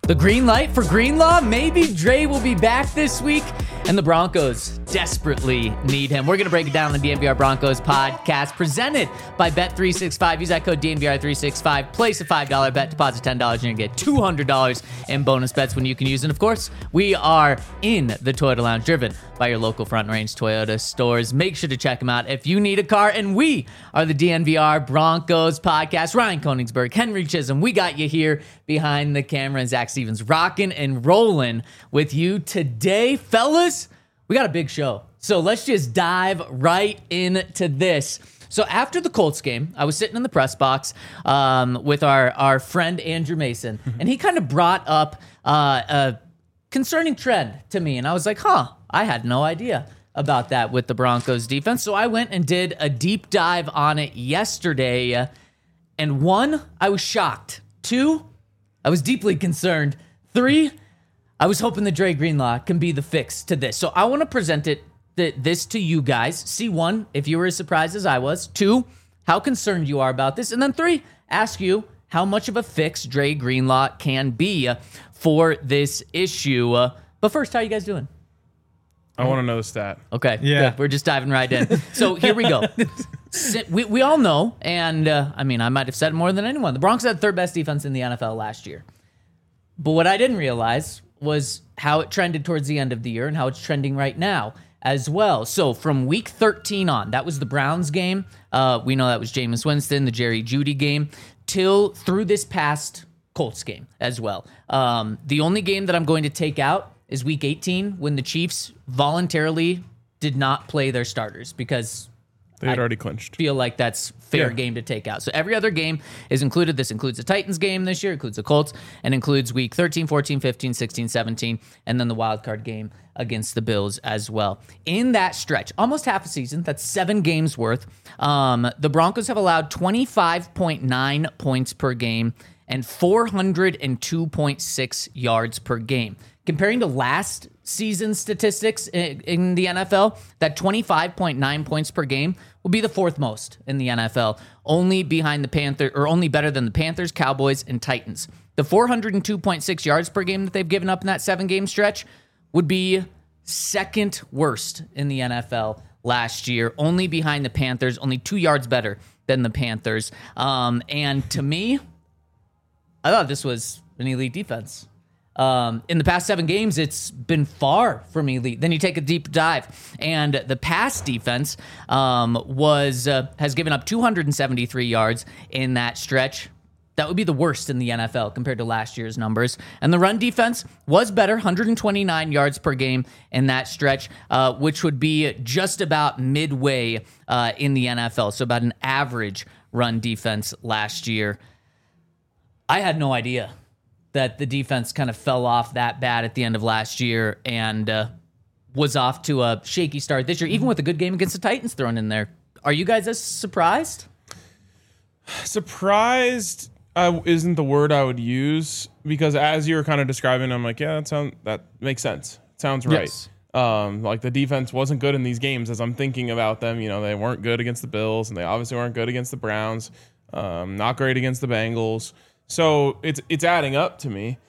The green light for Greenlaw? Maybe Dre will be back this week, and the Broncos desperately need him. We're going to break it down on the DNVR Broncos podcast, presented by Bet365. Use that code DNVR365. Place a $5 bet, deposit $10, and you get $200 in bonus bets when you can use it. And of course, we are in the Toyota Lounge, driven by your local Front Range Toyota stores. Make sure to check them out if you need a car. And we are the DNVR Broncos podcast. Ryan Koenigsberg, Henry Chisholm, we got you here behind the camera, and Zach Stevens rocking and rolling with you today. Fellas, we got a big show. So let's just dive right into this. So after the Colts game, I was sitting in the press box with our friend Andrew Mason, and he kind of brought up a concerning trend to me. And I was like, I had no idea about that with the Broncos defense. So I went and did a deep dive on it yesterday. And 1, I was shocked. 2, I was deeply concerned. 3, I was hoping the Dre Greenlaw can be the fix to this. So I want to present this to you guys. See, 1, if you were as surprised as I was. 2, how concerned you are about this. And then 3, ask you how much of a fix Dre Greenlaw can be for this issue. But first, how are you guys doing? I want to know the stat. Okay, yeah. Good. We're just diving right in. So here we go. We all know, and I might have said more than anyone, the Broncos had third best defense in the NFL last year. But what I didn't realize was how it trended towards the end of the year and how it's trending right now as well. So from week 13 on, that was the Browns game. We know that was Jameis Winston, the Jerry Jeudy game, through this past Colts game as well. The only game that I'm going to take out is week 18, when the Chiefs voluntarily did not play their starters because they had already clinched. Feel like that's fair game to take out. So every other game is included. This includes the Titans game this year, includes the Colts, and includes week 13, 14, 15, 16, 17, and then the wild card game against the Bills as well. In that stretch, almost half a season, that's 7 games worth, the Broncos have allowed 25.9 points per game and 402.6 yards per game. Comparing to last season's statistics in the NFL, that 25.9 points per game will be the 4th most in the NFL, only behind the Panthers, or only better than the Panthers, Cowboys, and Titans. The 402.6 yards per game that they've given up in that 7-game stretch would be 2nd worst in the NFL last year, only behind the Panthers, only 2 yards better than the Panthers. And to me, I thought this was an elite defense. In the past 7 games, it's been far from elite. Then you take a deep dive, and the pass defense has given up 273 yards in that stretch. That would be the worst in the NFL compared to last year's numbers. And the run defense was better, 129 yards per game in that stretch, which would be just about midway in the NFL. So about an average run defense last year. I had no idea that the defense kind of fell off that bad at the end of last year and was off to a shaky start this year, even with a good game against the Titans thrown in there. Are you guys as surprised? Surprised isn't the word I would use, because as you were kind of describing, I'm like, yeah, that makes sense. Sounds right. Yes. Like the defense wasn't good in these games as I'm thinking about them. You know, they weren't good against the Bills, and they obviously weren't good against the Browns. Not great against the Bengals. So it's adding up to me.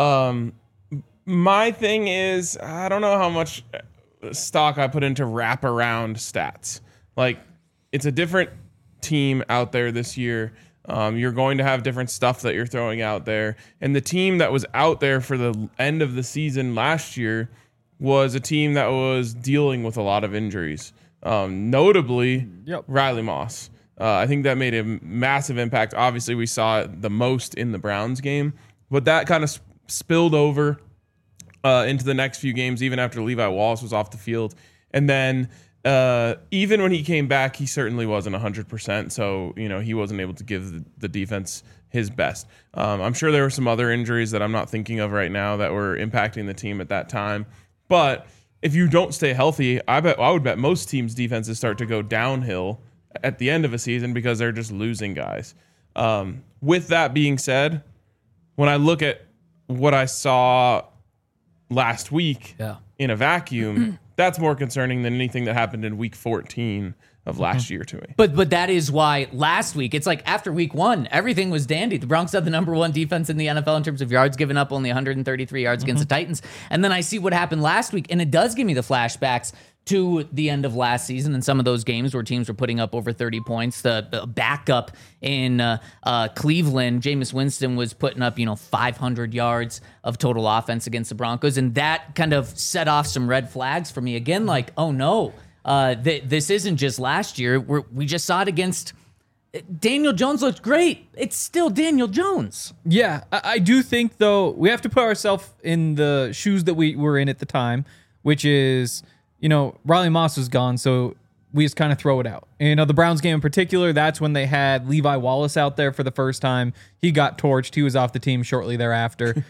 My thing is, I don't know how much stock I put into wraparound stats. Like, it's a different team out there this year. You're going to have different stuff that you're throwing out there. And the team that was out there for the end of the season last year was a team that was dealing with a lot of injuries. Notably, Riley Moss. I think that made a massive impact. Obviously, we saw it the most in the Browns game, but that kind of spilled over into the next few games, even after Levi Wallace was off the field. And then even when he came back, he certainly wasn't 100%. So, he wasn't able to give the defense his best. I'm sure there were some other injuries that I'm not thinking of right now that were impacting the team at that time. But if you don't stay healthy, I would bet most teams' defenses start to go downhill at the end of a season because they're just losing guys. With that being said, when I look at what I saw last week in a vacuum, that's more concerning than anything that happened in week 14 of last year to me. But that is why last week, it's like after week 1, everything was dandy. The Broncos had the number 1 defense in the NFL in terms of yards given up, only 133 yards against the Titans. And then I see what happened last week, and it does give me the flashbacks to the end of last season and some of those games where teams were putting up over 30 points. The backup in Cleveland, Jameis Winston, was putting up 500 yards of total offense against the Broncos, and that kind of set off some red flags for me again. Like, oh no, this isn't just last year. We just saw it against Daniel Jones. Looked great. It's still Daniel Jones. Yeah, I do think though we have to put ourselves in the shoes that we were in at the time, which is, Riley Moss was gone, so we just kind of throw it out. The Browns game in particular, that's when they had Levi Wallace out there for the first time. He got torched. He was off the team shortly thereafter.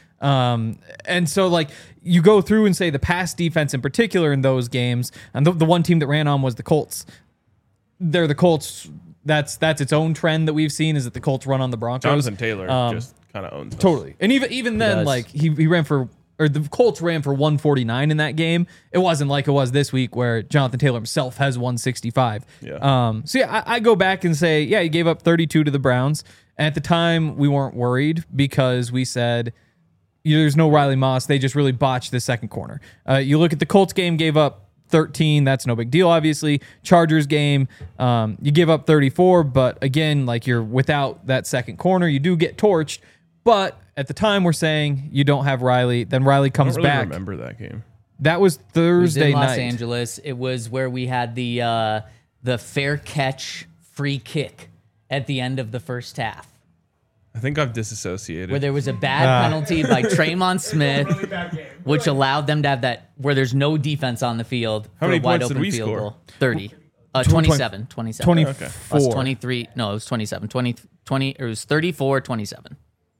And so, like, you go through and say the pass defense in particular in those games, and the one team that ran on was the Colts. They're the Colts. That's its own trend that we've seen, is that the Colts run on the Broncos. Jonathan Taylor just kind of owns us. Totally. And even then, like, he ran for... or the Colts ran for 149 in that game. It wasn't like it was this week where Jonathan Taylor himself has 165. Yeah. I go back and say, yeah, he gave up 32 to the Browns. And at the time, we weren't worried because we said, there's no Riley Moss. They just really botched the second corner. You look at the Colts game, gave up 13. That's no big deal, obviously. Chargers game, you give up 34. But again, like, you're without that second corner. You do get torched. But at the time, we're saying you don't have Riley. Then Riley comes I don't really back. remember that game. That was Thursday It was in Los night. Angeles. It was where we had the fair catch free kick at the end of the first half, I think I've disassociated. where there was a bad penalty by Traymon Smith, which allowed them to have that where there's no defense on the field. How for many a wide points did open we field score? goal. 30. 27. 24. Plus 23. No, it was 27. 20, it was 34-27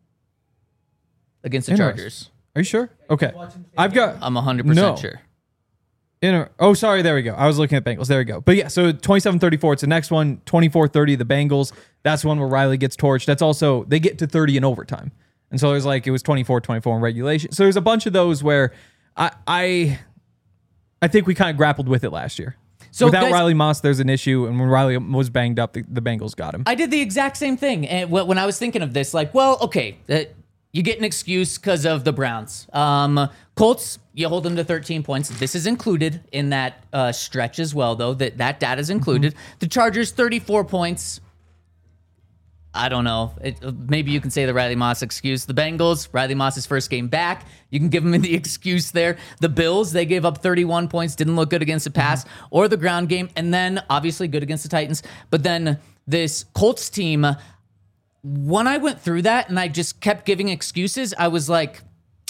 against the Chargers. Are you sure? Okay. I'm 100% No. sure. Sorry, there we go. I was looking at Bengals. There we go. But yeah, so 27-34. It's the next one, 24-30, the Bengals. That's one where Riley gets torched. That's also, they get to 30 in overtime. And so there's like, it was 24-24 in regulation. So there's a bunch of those where I think we kind of grappled with it last year. So without guys, Riley Moss, there's an issue. And when Riley was banged up, the Bengals got him. I did the exact same thing. And when I was thinking of this, like, well, okay, you get an excuse because of the Browns. Colts, you hold them to 13 points. This is included in that stretch as well, though. That data is included. The Chargers, 34 points. I don't know. Maybe you can say the Riley Moss excuse. The Bengals, Riley Moss's first game back. You can give him the excuse there. The Bills, they gave up 31 points, didn't look good against the pass or the ground game, and then obviously good against the Titans. But then this Colts team, when I went through that and I just kept giving excuses, I was like,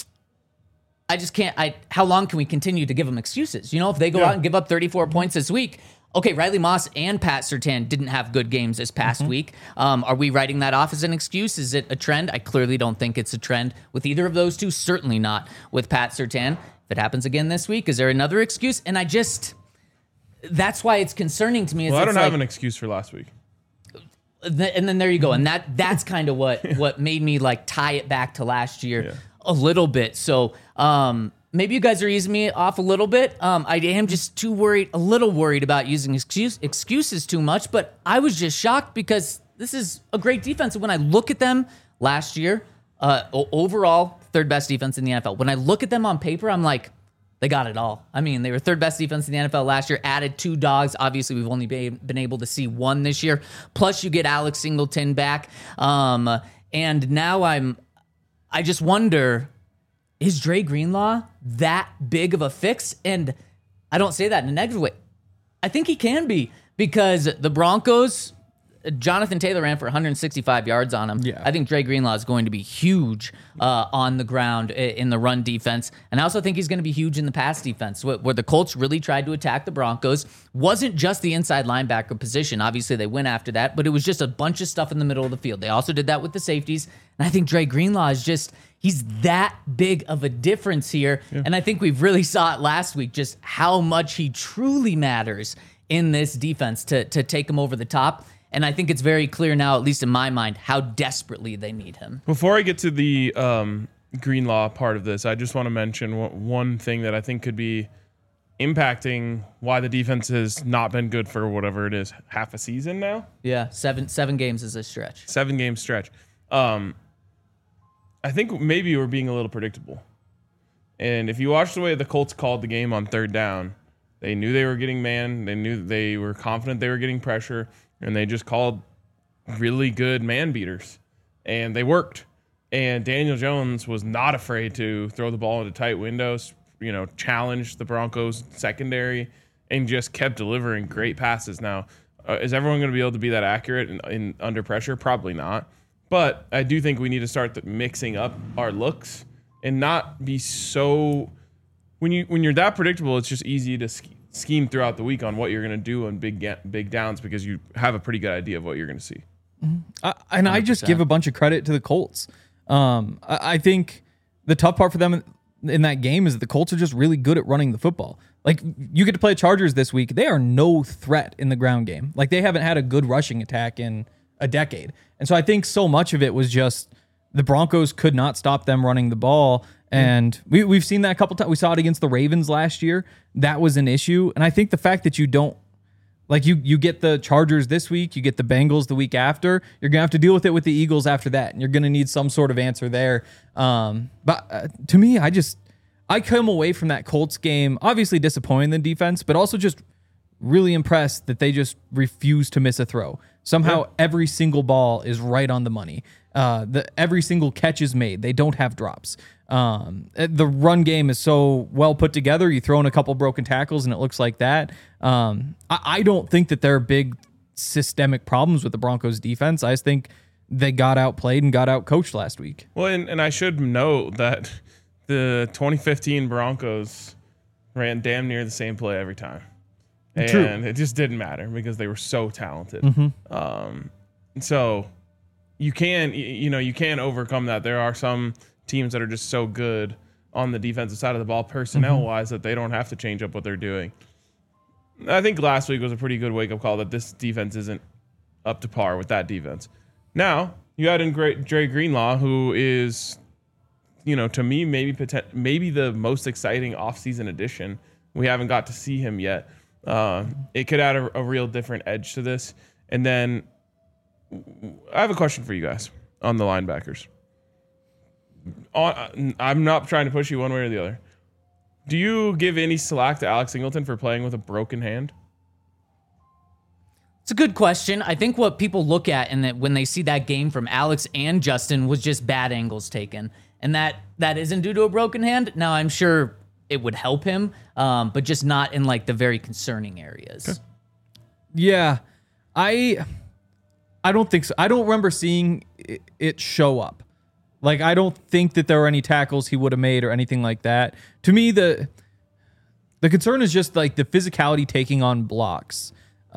I just can't. How long can we continue to give them excuses? If they go out and give up 34 points this week, okay, Riley Moss and Pat Surtain didn't have good games this past week. Are we writing that off as an excuse? Is it a trend? I clearly don't think it's a trend with either of those two. Certainly not with Pat Surtain. If it happens again this week, is there another excuse? And that's why it's concerning to me. Well, I don't have an excuse for last week. And then there you go. And that's kind of what made me like tie it back to last year a little bit. So maybe you guys are easing me off a little bit. I am just a little worried about using excuses too much. But I was just shocked because this is a great defense. And when I look at them last year, overall, third best defense in the NFL. When I look at them on paper, I'm like, they got it all. I mean, they were third best defense in the NFL last year, added 2 dogs. Obviously, we've only been able to see 1 this year. Plus, you get Alex Singleton back. And now I just wonder, is Dre Greenlaw that big of a fix? And I don't say that in a negative way. I think he can be, because the Broncos, Jonathan Taylor ran for 165 yards on him. Yeah. I think Dre Greenlaw is going to be huge on the ground in the run defense. And I also think he's going to be huge in the pass defense, where the Colts really tried to attack the Broncos. Wasn't just the inside linebacker position. Obviously, they went after that, but it was just a bunch of stuff in the middle of the field. They also did that with the safeties. And I think Dre Greenlaw is he's that big of a difference here. Yeah. And I think we've really saw it last week, just how much he truly matters in this defense to take him over the top. And I think it's very clear now, at least in my mind, how desperately they need him. Before I get to the Greenlaw part of this, I just want to mention one thing that I think could be impacting why the defense has not been good for whatever it is, half a season now. Yeah, seven games is a stretch. 7-game stretch. I think maybe we're being a little predictable. And if you watch the way the Colts called the game on third down, they knew they were getting man. They knew they were confident they were getting pressure, and they just called really good man beaters, and they worked. And Daniel Jones was not afraid to throw the ball into tight windows, challenge the Broncos secondary, and just kept delivering great passes. Now, is everyone going to be able to be that accurate in under pressure? Probably not. But I do think we need to start mixing up our looks and not be so. When you're that predictable, it's just easy to scheme throughout the week on what you're going to do on big downs because you have a pretty good idea of what you're going to see. And I just give a bunch of credit to the Colts. I think the tough part for them in that game is that the Colts are just really good at running the football. Like, you get to play Chargers this week. They are no threat in the ground game. Like, they haven't had a good rushing attack in a decade. And so I think so much of it was just the Broncos could not stop them running the ball. And we've seen that a couple times. We saw it against the Ravens last year. That was an issue. And I think the fact that you don't, like, you get the Chargers this week, you get the Bengals the week after, you're going to have to deal with it with the Eagles after that. And you're going to need some sort of answer there. But to me, I come away from that Colts game obviously disappointed in the defense, but also just really impressed that they just refuse to miss a throw. Somehow every single ball is right on the money. Every single catch is made. They don't have drops. The run game is so well put together. You throw in a couple broken tackles and it looks like that. I don't think that there are big systemic problems with the Broncos defense. I just think they got outplayed and got outcoached last week. Well, and I should note that the 2015 Broncos ran damn near the same play every time. And True. It just didn't matter because they were so talented. So you can overcome that. There are some teams that are just so good on the defensive side of the ball personnel-wise that they don't have to change up what they're doing. I think last week was a pretty good wake-up call that this defense isn't up to par with that defense. Now, you add in Dre Greenlaw, who is, to me, maybe the most exciting offseason addition. We haven't got to see him yet. It could add a real different edge to this. And then I have a question for you guys on the linebackers. I'm not trying to push you one way or the other. Do you give any slack to Alex Singleton for playing with a broken hand? It's a good question. I think what people look at and that when they see that game from Alex and Justin was just bad angles taken. And that isn't due to a broken hand. Now, I'm sure it would help him, but just not in like the very concerning areas. Okay. Yeah, I don't think so. I don't remember seeing it show up. Like, I don't think that there were any tackles he would have made or anything like that. To me, the concern is just like the physicality taking on blocks.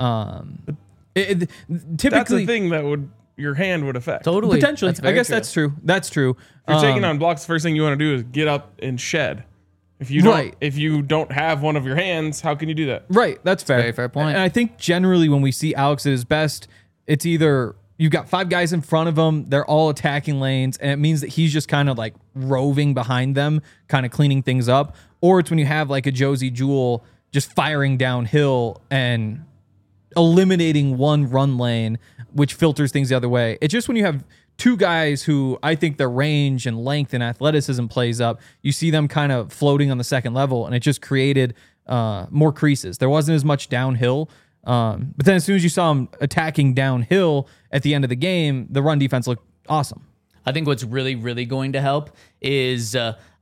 Typically, that's the thing that your hand would affect. Totally. Potentially. I guess true. that's true. That's true. If you're taking on blocks, the first thing you want to do is get up and shed. If you don't have one of your hands, how can you do that? Right. That's fair. Very fair point. And I think generally when we see Alex at his best, it's either you've got 5 guys in front of him, they're all attacking lanes, and it means that he's just kind of like roving behind them, kind of cleaning things up. Or it's when you have like a Josie Jewell just firing downhill and eliminating one run lane, which filters things the other way. It's just when you have 2 guys who I think their range and length and athleticism plays up, you see them kind of floating on the second level, and it just created more creases. There wasn't as much downhill. But then as soon as you saw him attacking downhill at the end of the game, the run defense looked awesome. I think what's really, really going to help is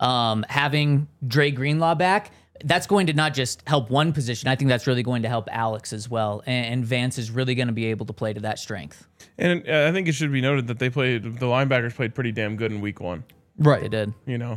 having Dre Greenlaw back. That's going to not just help one position. I think that's really going to help Alex as well. And Vance is really going to be able to play to that strength. And I think it should be noted that the linebackers played pretty damn good in week 1. Right. They did.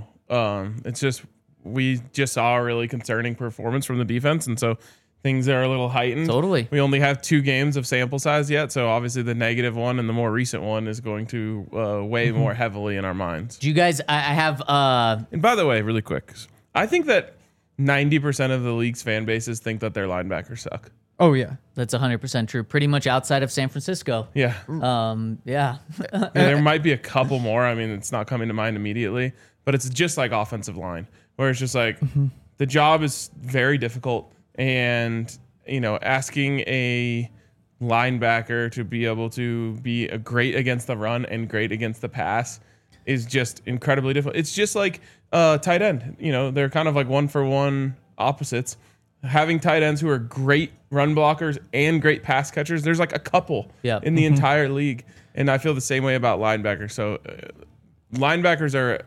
It's just, we just saw a really concerning performance from the defense. And so things are a little heightened. Totally. We only have 2 games of sample size yet. So obviously the negative one and the more recent one is going to weigh more heavily in our minds. Do you guys, I have... And by the way, really quick, I think that 90% of the league's fan bases think that their linebackers suck. Oh, yeah. That's 100% true. Pretty much outside of San Francisco. Yeah. Yeah. And there might be a couple more. I mean, it's not coming to mind immediately, but it's just like offensive line, where it's just like the job is very difficult, and asking a linebacker to be able to be a great against the run and great against the pass is just incredibly difficult. It's just like tight end. They're kind of like 1-for-1 opposites. Having tight ends who are great run blockers and great pass catchers, there's like a couple in the entire league. And I feel the same way about linebackers. So linebackers are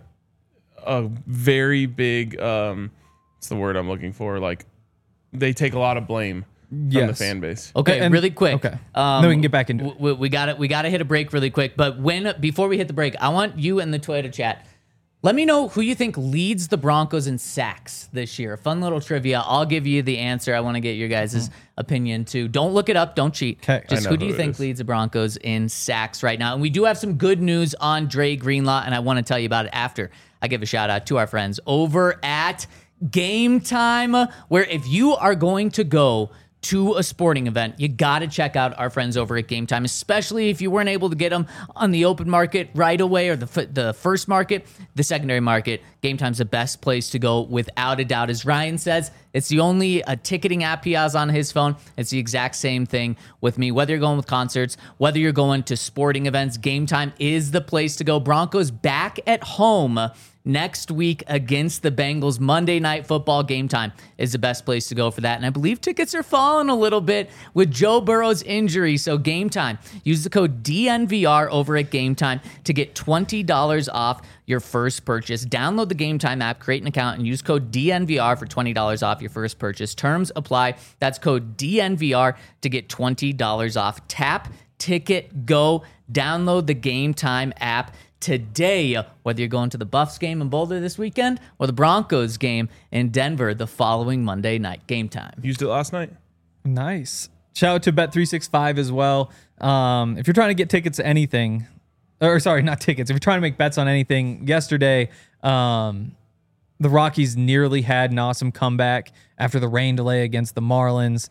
a very big, what's the word I'm looking for? Like, they take a lot of blame from the fan base. Okay, and really quick. Okay. Then we can get back into it. We got to hit a break really quick. But before we hit the break, I want you in the Toyota chat. Let me know who you think leads the Broncos in sacks this year. Fun little trivia. I'll give you the answer. I want to get your guys' opinion too. Don't look it up. Don't cheat. Okay. Just who do you think leads the Broncos in sacks right now? And we do have some good news on Dre Greenlaw, and I want to tell you about it after I give a shout out to our friends over at Game Time, where if you are going to go to a sporting event, you got to check out our friends over at Game Time, especially if you weren't able to get them on the open market right away or the first market, the secondary market. Game Time's the best place to go without a doubt. As Ryan says, it's the only ticketing app he has on his phone. It's the exact same thing with me. Whether you're going with concerts, whether you're going to sporting events, Game Time is the place to go. Broncos back at home next week against the Bengals. Monday Night Football. Game Time is the best place to go for that. And I believe tickets are falling a little bit with Joe Burrow's injury. So Game Time. Use the code DNVR over at Game Time to get $20 off your first purchase. Download the Game Time app, create an account, and use code DNVR for $20 off your first purchase. Terms apply. That's code DNVR to get $20 off. Tap, ticket, go. Download the Game Time app today, whether you're going to the Buffs game in Boulder this weekend or the Broncos game in Denver the following Monday night. Game Time. Used it last night. Nice. Shout out to Bet365 as well. If you're trying to get tickets to anything, or sorry, not tickets. If you're trying to make bets on anything, yesterday, the Rockies nearly had an awesome comeback after the rain delay against the Marlins.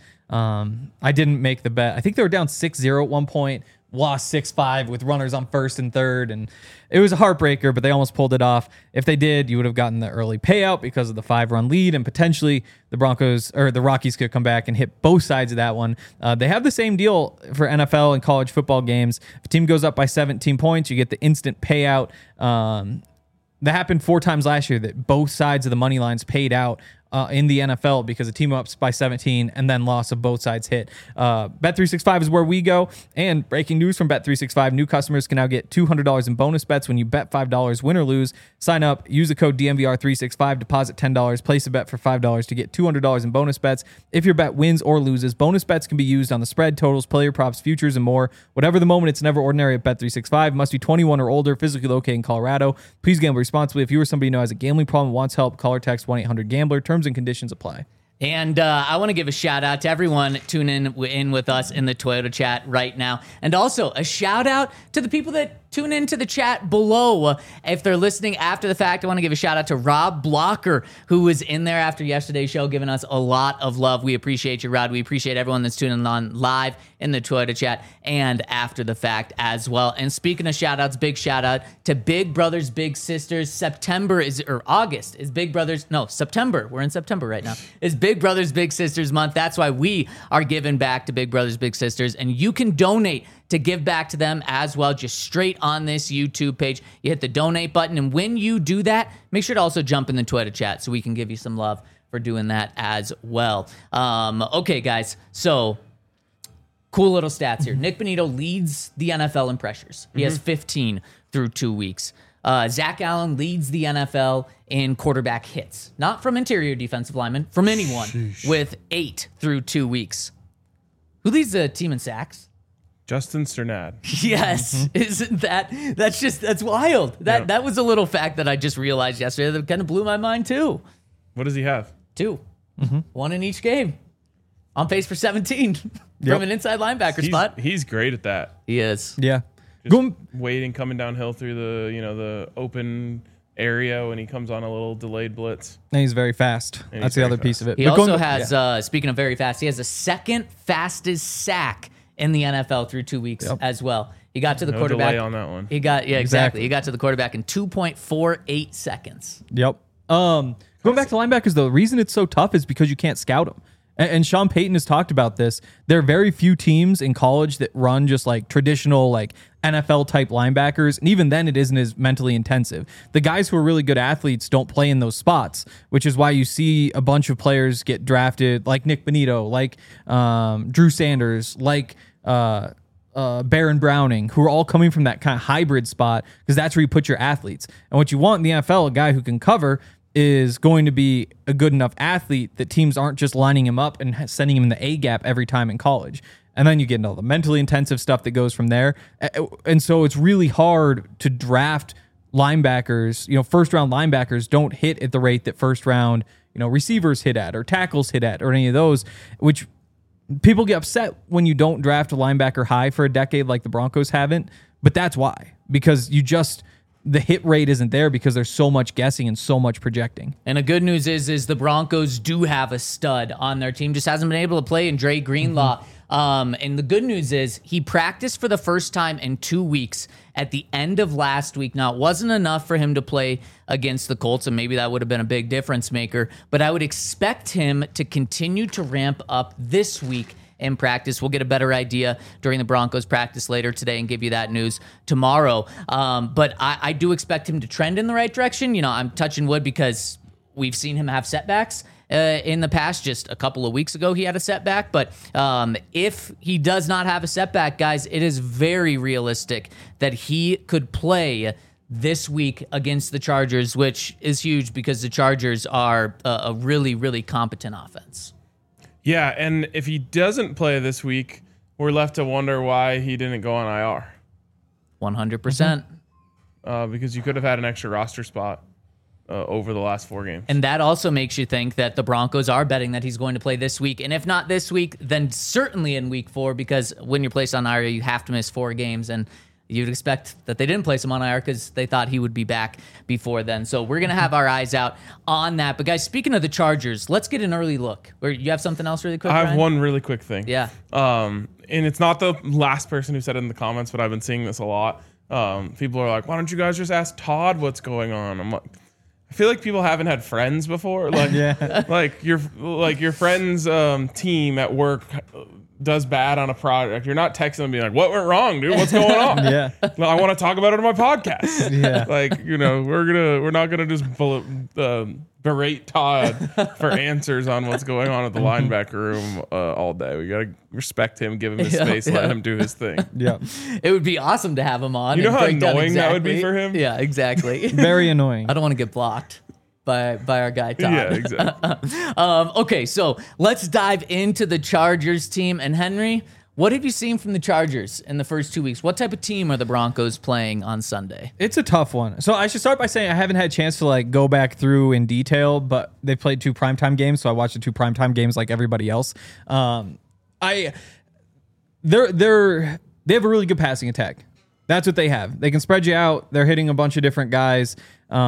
I didn't make the bet. I think they were down 6-0 at one point. Lost 6-5 with runners on first and third, and it was a heartbreaker, but they almost pulled it off. If they did, you would have gotten the early payout because of the 5-run lead, and potentially the Rockies could come back and hit both sides of that one. They have the same deal for NFL and college football games. If a team goes up by 17 points, you get the instant payout. That happened 4 times last year, that both sides of the money lines paid out in the NFL because a team ups by 17 and then loss of both sides hit. Bet365 is where we go. And breaking news from Bet365, new customers can now get $200 in bonus bets when you bet $5, win or lose. Sign up, use the code DNVR365, deposit $10, place a bet for $5 to get $200 in bonus bets. If your bet wins or loses, bonus bets can be used on the spread, totals, player props, futures, and more. Whatever the moment, it's never ordinary at Bet365. Must be 21 or older, physically located in Colorado. Please gamble responsibly. If you or somebody you know has a gambling problem, wants help, call or text 1-800-GAMBLER. Terms and conditions apply. And I want to give a shout out to everyone tuning in with us in the Toyota chat right now. And also a shout out to the people that tune into the chat below. If they're listening after the fact, I want to give a shout out to Rob Blocker, who was in there after yesterday's show, giving us a lot of love. We appreciate you, Rod. We appreciate everyone that's tuning on live in the Toyota chat and after the fact as well. And speaking of shout outs, big shout out to Big Brothers Big Sisters. September. We're in September right now. Is Big Brothers Big Sisters month. That's why we are giving back to Big Brothers Big Sisters, and you can donate to give back to them as well, just straight on this YouTube page. You hit the donate button, and when you do that, make sure to also jump in the Twitter chat so we can give you some love for doing that as well. Okay, guys, so cool little stats here. Nick Bonito leads the NFL in pressures. He has 15 through 2 weeks. Zach Allen leads the NFL in quarterback hits. Not from interior defensive linemen, from anyone, with 8 through 2 weeks. Who leads the team in sacks? Justin Strnad. Yes. Isn't that's wild. That was a little fact that I just realized yesterday that kind of blew my mind too. What does he have? 2. 1 in each game. On pace for 17 from an inside linebacker spot. He's great at that. He is. Yeah. Just waiting, coming downhill through the open area when he comes on a little delayed blitz. And he's very fast. That's the other piece of it. He also has, speaking of very fast, he has the second fastest sack in the NFL through 2 weeks as well. He got to the quarterback. Delay on that one. He got exactly. He got to the quarterback in 2.48 seconds. Yep. Going back to linebackers, though, the reason it's so tough is because you can't scout them. And Sean Payton has talked about this. There are very few teams in college that run just like traditional, like NFL type linebackers. And even then, it isn't as mentally intensive. The guys who are really good athletes don't play in those spots, which is why you see a bunch of players get drafted like Nick Bonito, like Drew Sanders, like Baron Browning, who are all coming from that kind of hybrid spot because that's where you put your athletes. And what you want in the NFL, a guy who can cover, is going to be a good enough athlete that teams aren't just lining him up and sending him in the A gap every time in college. And then you get into all the mentally intensive stuff that goes from there. And so it's really hard to draft linebackers. First round linebackers don't hit at the rate that first round, receivers hit at or tackles hit at or any of those, which people get upset when you don't draft a linebacker high for a decade like the Broncos haven't. But that's why, because the hit rate isn't there because there's so much guessing and so much projecting. And the good news is the Broncos do have a stud on their team, just hasn't been able to play in Dre Greenlaw. And the good news is he practiced for the first time in 2 weeks at the end of last week. Now, it wasn't enough for him to play against the Colts, and maybe that would have been a big difference maker, but I would expect him to continue to ramp up this week in practice. We'll get a better idea during the Broncos practice later today and give you that news tomorrow. But I do expect him to trend in the right direction. I'm touching wood because we've seen him have setbacks in the past. Just a couple of weeks ago, he had a setback. But if he does not have a setback, guys, it is very realistic that he could play this week against the Chargers, which is huge because the Chargers are a really, really competent offense. Yeah, and if he doesn't play this week, we're left to wonder why he didn't go on IR. 100%. Because you could have had an extra roster spot over the last 4 games. And that also makes you think that the Broncos are betting that he's going to play this week. And if not this week, then certainly in week 4, because when you're placed on IR, you have to miss 4 games. And you'd expect that they didn't place him on IR because they thought he would be back before then. So we're going to have our eyes out on that. But guys, speaking of the Chargers, let's get an early look. Or you have something else really quick, I have Ryan? one really quick thing. Yeah. And it's not the last person who said it in the comments, but I've been seeing this a lot. People are like, why don't you guys just ask Todd what's going on? I'm like, I feel like people haven't had friends before. Like, like your friend's team at work does bad on a project. You're not texting them being like, what went wrong, dude? What's going on? Yeah. Well, I want to talk about it on my podcast. Yeah. Like, we're not gonna just berate Todd for answers on what's going on at the linebacker room all day. We gotta respect him, give him his space, let him do his thing. Yeah. It would be awesome to have him on. You know and how break down annoying that would be exactly- for him? Yeah, exactly. Very annoying. I don't want to get blocked by our guy Todd. Yeah, exactly. Okay, so let's dive into the Chargers team. And Henry, what have you seen from the Chargers in the first 2 weeks? What type of team are the Broncos playing on Sunday? It's a tough one. So I should start by saying I haven't had a chance to go back through in detail, but they played 2 primetime games, so I watched the 2 primetime games like everybody else. They have a really good passing attack. That's what they have. They can spread you out. They're hitting a bunch of different guys.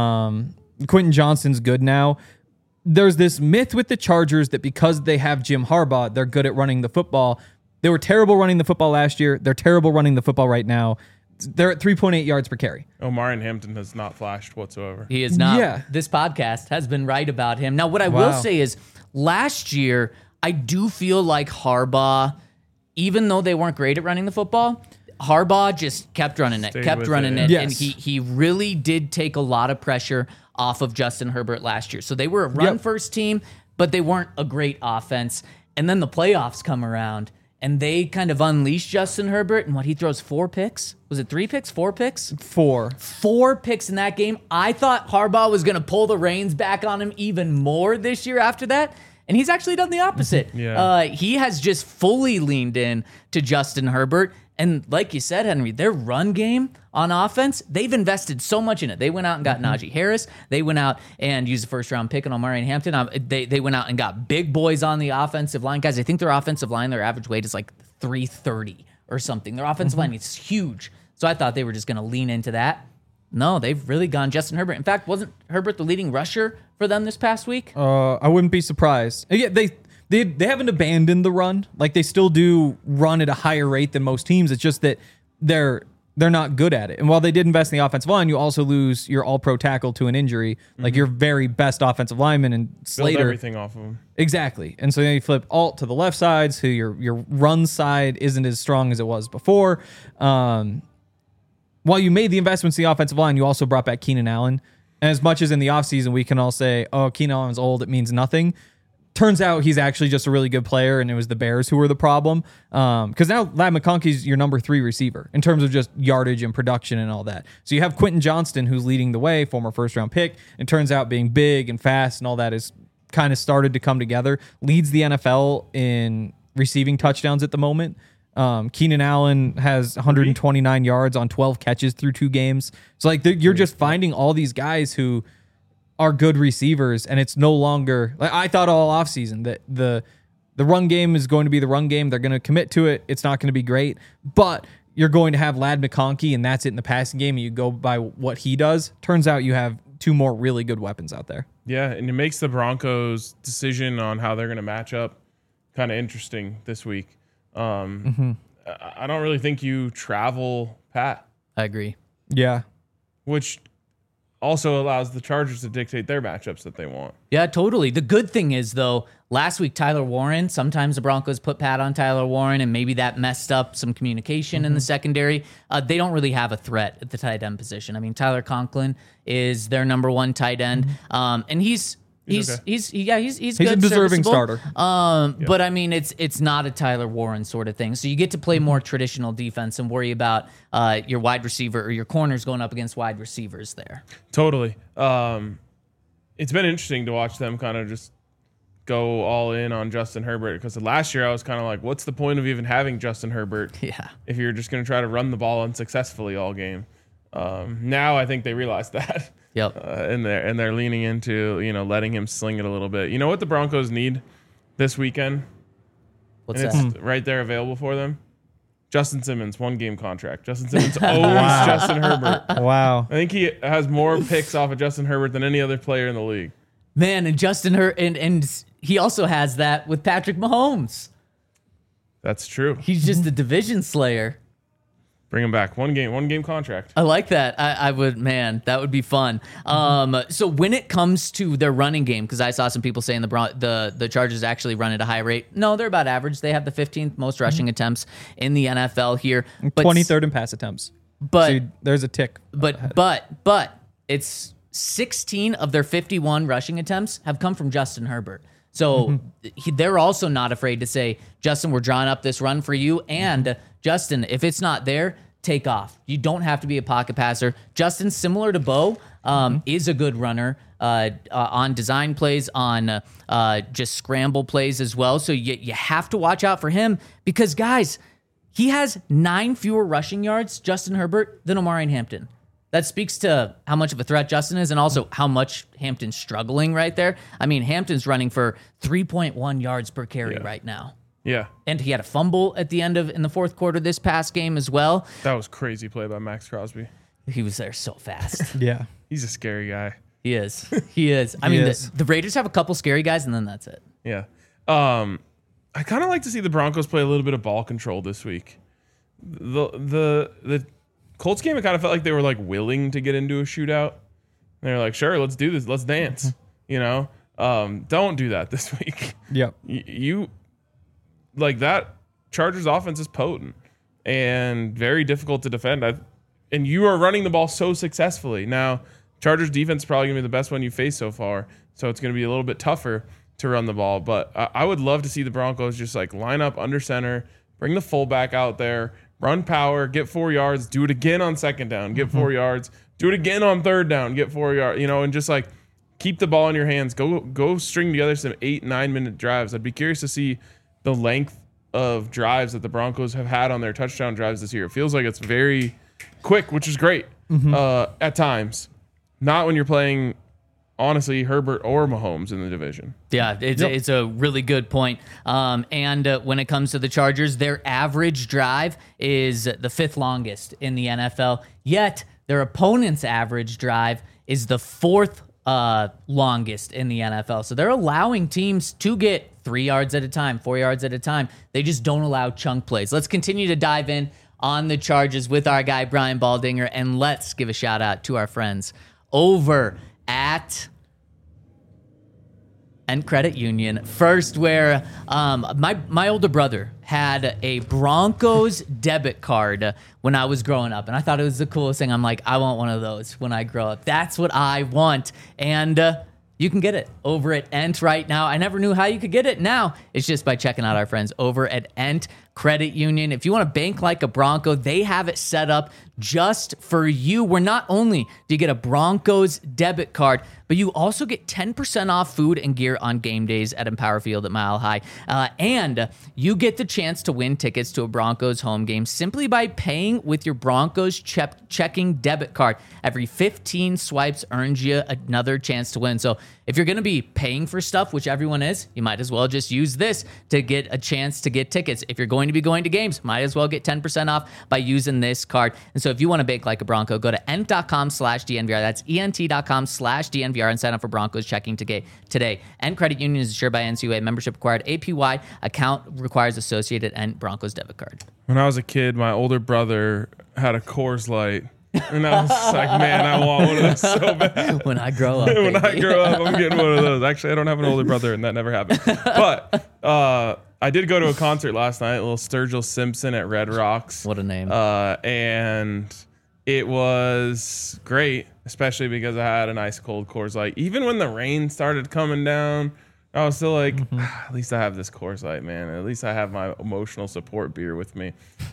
Quentin Johnston's good now. There's this myth with the Chargers that because they have Jim Harbaugh, they're good at running the football. They were terrible running the football last year. They're terrible running the football right now. They're at 3.8 yards per carry. Omarion Hampton has not flashed whatsoever. He is not. Yeah. This podcast has been right about him. Now, what I will say is last year, I do feel like Harbaugh, even though they weren't great at running the football, Harbaugh just kept running it, Yes. and he really did take a lot of pressure off of Justin Herbert last year. So they were a run-first team, but they weren't a great offense. And then the playoffs come around, and they kind of unleashed Justin Herbert, and he throws 4 picks? Was it 3 picks? 4 picks? 4. 4 picks in that game. I thought Harbaugh was going to pull the reins back on him even more this year after that. And he's actually done the opposite. Yeah. He has just fully leaned in to Justin Herbert. And like you said, Henry, their run game on offense, they've invested so much in it. They went out and got Najee Harris. They went out and used a first-round pick on Omarion Hampton. They went out and got big boys on the offensive line. Guys, I think their offensive line, their average weight is like 330 or something. Their offensive line is huge. So I thought they were just going to lean into that. No, they've really gone Justin Herbert. In fact, wasn't Herbert the leading rusher for them this past week? I wouldn't be surprised. Yeah, they haven't abandoned the run. Like, they still do run at a higher rate than most teams. It's just that they're they're not good at it. And while they did invest in the offensive line, you also lose your all-pro tackle to an injury, like your very best offensive lineman and Build Slater. everything off of him. Exactly. And so then you flip Alt to the left side, so your run side isn't as strong as it was before. While you made the investments in the offensive line, you also brought back Keenan Allen. And as much as in the offseason we can all say, oh, Keenan Allen's old, it means nothing. Turns out he's actually just a really good player, and it was the Bears who were the problem. Because now Ladd McConkey's your number 3 receiver in terms of just yardage and production and all that. So you have Quentin Johnston, who's leading the way, former first-round pick, and turns out being big and fast and all that is kind of started to come together. Leads the NFL in receiving touchdowns at the moment. Keenan Allen has 129 yards on 12 catches through 2 games. So like you're just finding all these guys who are good receivers, and it's no longer like I thought all offseason that the run game is going to be the run game. They're going to commit to it. It's not going to be great, but you're going to have Ladd McConkey, and that's it in the passing game. And you go by what he does. Turns out you have 2 more really good weapons out there. Yeah, and it makes the Broncos' decision on how they're going to match up kind of interesting this week. I don't really think you travel Pat, I agree. Yeah. which also allows the Chargers to dictate their matchups that they want. Yeah, totally. The good thing is, though, last week, Tyler Warren, sometimes the Broncos put Pat on Tyler Warren, and maybe that messed up some communication in the secondary. They don't really have a threat at the tight end position. I mean, Tyler Conklin is their number 1 tight end, and he's good, a deserving starter. But I mean, it's not a Tyler Warren sort of thing. So you get to play more traditional defense and worry about your wide receiver or your corners going up against wide receivers there. Totally. It's been interesting to watch them kind of just go all in on Justin Herbert, because last year I was kind of like, what's the point of even having Justin Herbert if you're just going to try to run the ball unsuccessfully all game? Now I think they realize that. Yep. And they're leaning into, letting him sling it a little bit. You know what the Broncos need this weekend? What's and that? It's right there available for them. Justin Simmons, 1-game contract. Justin Simmons owns Justin Herbert. Wow. I think he has more picks off of Justin Herbert than any other player in the league. Man, and Justin and he also has that with Patrick Mahomes. That's true. He's just a division slayer. Bring him back. One game contract. I like that. I would, man, that would be fun. So when it comes to their running game, because I saw some people saying the Chargers actually run at a high rate. No, they're about average. They have the 15th most rushing attempts in the NFL here. But 23rd in pass attempts. But so there's a tick. But it's 16 of their 51 rushing attempts have come from Justin Herbert. So they're also not afraid to say, Justin, we're drawing up this run for you. And Justin, if it's not there, take off. You don't have to be a pocket passer. Justin, similar to Bo, is a good runner on design plays, on just scramble plays as well. So you have to watch out for him because, guys, he has 9 fewer rushing yards, Justin Herbert, than Omari Hampton. That speaks to how much of a threat Justin is and also how much Hampton's struggling right there. I mean, Hampton's running for 3.1 yards per carry right now. Yeah. And he had a fumble at the end in the 4th quarter this past game as well. That was crazy play by Max Crosby. He was there so fast. Yeah. He's a scary guy. He is. He is. I mean, the Raiders have a couple scary guys, and then that's it. Yeah. I kind of like to see the Broncos play a little bit of ball control this week. The Colts game, it kind of felt like they were like willing to get into a shootout. They're like, sure, let's do this. Let's dance. Don't do that this week. Yep. You like that Chargers offense is potent and very difficult to defend. And you are running the ball so successfully. Now, Chargers defense is probably going to be the best one you faced so far. So it's going to be a little bit tougher to run the ball. But I would love to see the Broncos just like line up under center, bring the fullback out there, run power, get 4 yards, do it again on 2nd down, get 4 yards, do it again on 3rd down, get 4 yards, and just like keep the ball in your hands. Go string together some 8-9 minute drives. I'd be curious to see the length of drives that the Broncos have had on their touchdown drives this year. It feels like it's very quick, which is great at times. Not when you're playing, honestly, Herbert or Mahomes in the division. Yeah, it's a really good point. And when it comes to the Chargers, their average drive is the 5th longest in the NFL, yet their opponent's average drive is the 4th longest in the NFL. So they're allowing teams to get 3 yards at a time, 4 yards at a time. They just don't allow chunk plays. Let's continue to dive in on the Chargers with our guy Brian Baldinger. And let's give a shout out to our friends over at and Credit Union. First, where my older brother had a Broncos debit card when I was growing up, and I thought it was the coolest thing. I'm like, I want one of those when I grow up. That's what I want, and you can get it over at Ent right now. I never knew how you could get it. Now it's just by checking out our friends over at Ent Credit Union. If you want to bank like a Bronco, they have it set up just for you, where not only do you get a Broncos debit card, but you also get 10% off food and gear on game days at Empower Field at Mile High. And you get the chance to win tickets to a Broncos home game simply by paying with your Broncos checking debit card. Every 15 swipes earns you another chance to win. So if you're going to be paying for stuff, which everyone is, you might as well just use this to get a chance to get tickets. If you're going to be going to games, might as well get 10% off by using this card. And so if you want to bake like a Bronco, go to ent.com/DNVR. That's ent.com/DNVR and sign up for Broncos checking today. Ent Credit Union is insured by NCUA. Membership required. APY account requires associated Ent Broncos debit card. When I was a kid, my older brother had a Coors Light. And I was like, man, I want one of those so bad. When I grow up, When I baby. grow up, I'm getting one of those. Actually, I don't have an older brother, and that never happened. But I did go to a concert last night, a little Sturgill Simpson at Red Rocks. What a name. And it was great, especially because I had an ice cold Coors Light. Even when the rain started coming down, I was still like, at least I have this Coors Light, man. At least I have my emotional support beer with me.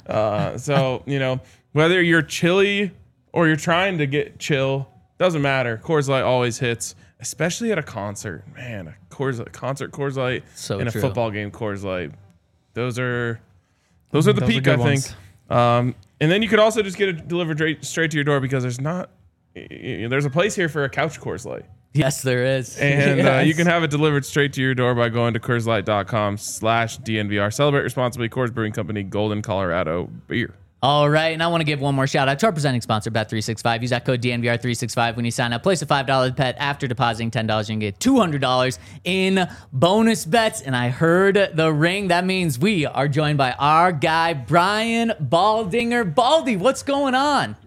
So, whether you're chilly or you're trying to get chill, doesn't matter. Coors Light always hits, especially at a concert. Man, a concert Coors Light So and true. a football game Coors Light. Those are the peak, good I think. ones. And then you could also just get it delivered straight to your door, because there's a place here for a couch Coors Light. Yes, there is. And Yes. you can have it delivered straight to your door by going to CoorsLight.com/DNVR. Celebrate responsibly. Coors Brewing Company, Golden, Colorado beer. All right, and I want to give one more shout out to our presenting sponsor, Bet365. Use that code DNVR365 when you sign up. Place a $5 bet after depositing $10. You can get $200 in bonus bets. And I heard the ring. That means we are joined by our guy, Brian Baldinger. Baldy, what's going on?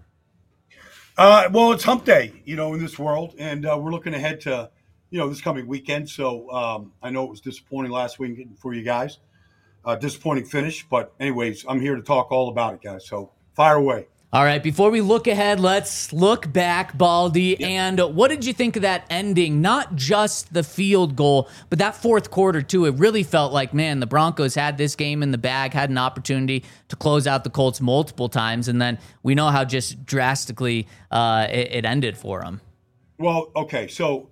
Well, it's hump day, in this world, and we're looking ahead to, this coming weekend. So I know it was disappointing last week for you guys. Disappointing finish, but anyways, I'm here to talk all about it, guys. So fire away. All right, before we look ahead, let's look back, Baldy. Yep. And what did you think of that ending? Not just the field goal, but that fourth quarter, too. It really felt like, man, the Broncos had this game in the bag, had an opportunity to close out the Colts multiple times, and then we know how just drastically it ended for them. Well, okay, so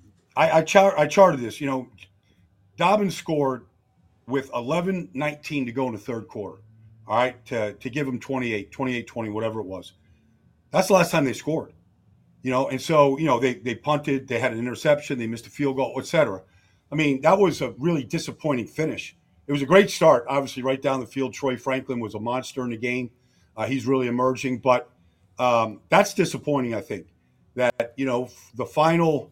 I charted this. Dobbins scored with 11:19 to go in the third quarter, all right, to give them 28-20, whatever it was. That's the last time they scored, and so, they punted, they had an interception, they missed a field goal, et cetera. I mean, that was a really disappointing finish. It was a great start, obviously, right down the field. Troy Franklin was a monster in the game. He's really emerging, but that's disappointing, I think, that, the final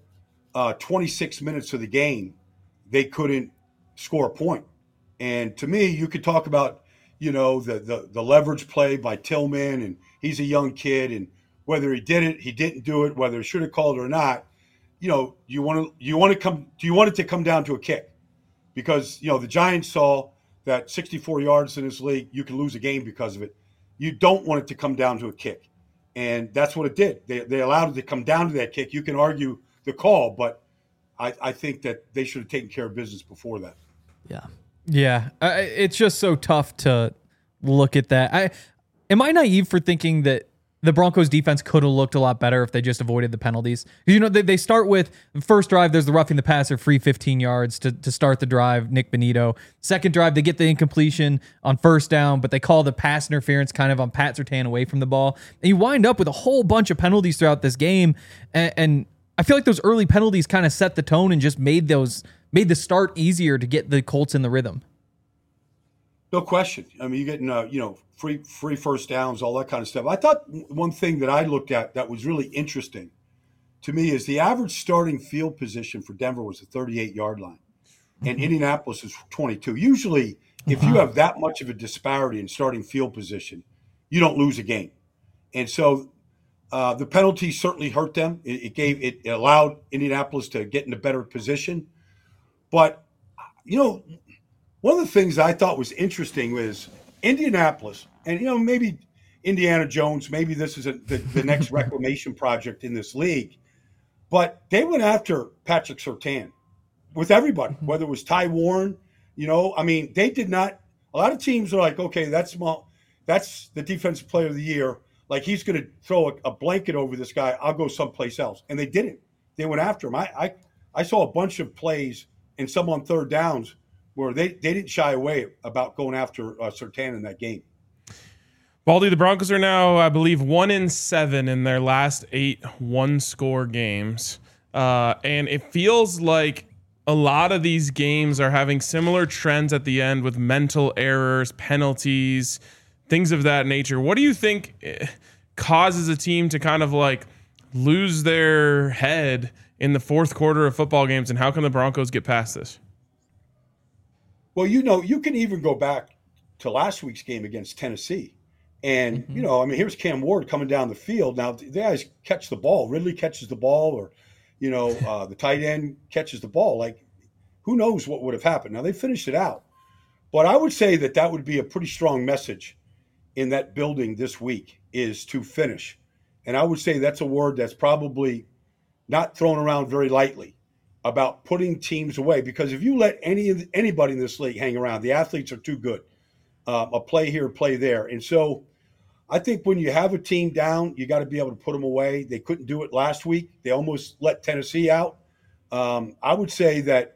26 minutes of the game, they couldn't score a point. And to me, you could talk about, the leverage play by Tillman, and he's a young kid, and whether he did it, he didn't do it, whether he should have called it or not. Do you want it to come down to a kick? Because, the Giants saw that 64 yards in this league, you can lose a game because of it. You don't want it to come down to a kick. And that's what it did. They allowed it to come down to that kick. You can argue the call, but I think that they should have taken care of business before that. Yeah. Yeah, it's just so tough to look at that. Am I naive for thinking that the Broncos defense could have looked a lot better if they just avoided the penalties? They start with first drive, there's the roughing the passer, free 15 yards to start the drive, Nick Benito. Second drive, they get the incompletion on first down, but they call the pass interference kind of on Pat Surtain away from the ball. And you wind up with a whole bunch of penalties throughout this game. And I feel like those early penalties kind of set the tone and just made the start easier to get the Colts in the rhythm. No question. I mean, you're getting, free first downs, all that kind of stuff. I thought one thing that I looked at that was really interesting to me is the average starting field position for Denver was the 38-yard line, and Indianapolis is 22. Usually, if you have that much of a disparity in starting field position, you don't lose a game. And so the penalties certainly hurt them. It allowed Indianapolis to get in a better position. But, one of the things I thought was interesting was Indianapolis, and, maybe Indiana Jones, maybe this is the next reclamation project in this league, but they went after Patrick Surtain with everybody, whether it was Ty Warren, they did not. A lot of teams are like, okay, that's the defensive player of the year. Like, he's going to throw a blanket over this guy. I'll go someplace else. And they didn't. They went after him. I saw a bunch of plays and some on third downs where they didn't shy away about going after Surtain in that game. Baldy, the Broncos are now, I believe, 1-7 in their last 8 one-score games. And it feels like a lot of these games are having similar trends at the end with mental errors, penalties, things of that nature. What do you think causes a team to kind of like lose their head in the fourth quarter of football games, and how can the Broncos get past this? Well, you can even go back to last week's game against Tennessee. And, here's Cam Ward coming down the field. Now, the guys catch the ball. Ridley catches the ball, or, the tight end catches the ball. Like, who knows what would have happened? Now, they finished it out. But I would say that would be a pretty strong message in that building this week, is to finish. And I would say that's a word that's probably not thrown around very lightly, about putting teams away. Because if you let anybody in this league hang around, the athletes are too good. A play here, play there. And so I think when you have a team down, you got to be able to put them away. They couldn't do it last week. They almost let Tennessee out. I would say that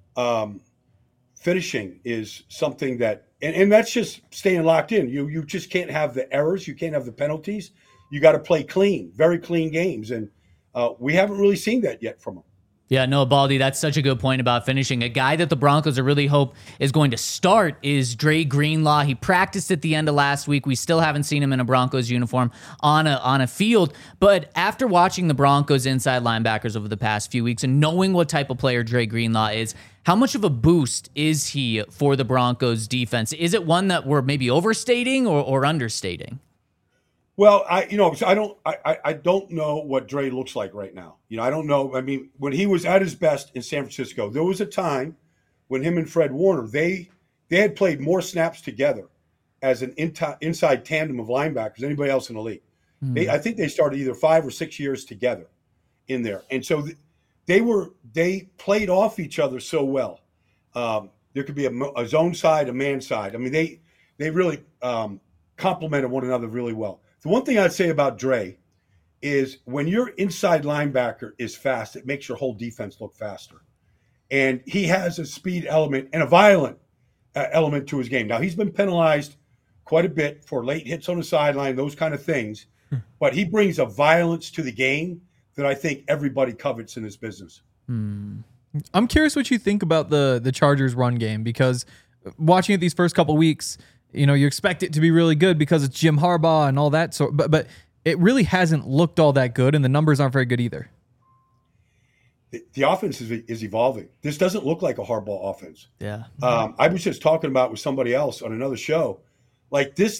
finishing is something that, and that's just staying locked in. You just can't have the errors. You can't have the penalties. You got to play clean, very clean games. And we haven't really seen that yet from them. Yeah, no, Baldy, that's such a good point about finishing. A guy that the Broncos are really hope is going to start is Dre Greenlaw. He practiced at the end of last week. We still haven't seen him in a Broncos uniform on a field. But after watching the Broncos inside linebackers over the past few weeks and knowing what type of player Dre Greenlaw is, how much of a boost is he for the Broncos defense? Is it one that we're maybe overstating or understating? Well, I don't know what Dre looks like right now. I don't know. I mean, when he was at his best in San Francisco, there was a time when him and Fred Warner, they had played more snaps together as an inside tandem of linebackers than anybody else in the league. Mm-hmm. I think they started either 5 or 6 years together in there. And so they played off each other so well. There could be a zone side, a man side. I mean, they really complemented one another really well. The one thing I'd say about Dre is when your inside linebacker is fast, it makes your whole defense look faster. And he has a speed element and a violent element to his game. Now, he's been penalized quite a bit for late hits on the sideline, those kind of things. But he brings a violence to the game that I think everybody covets in this business. I'm curious what you think about the Chargers run game, because watching it these first couple weeks, you expect it to be really good because it's Jim Harbaugh and all that sort, but it really hasn't looked all that good, and the numbers aren't very good either. The offense is evolving. This doesn't look like a Harbaugh offense. Yeah. I was just talking about with somebody else on another show, like this.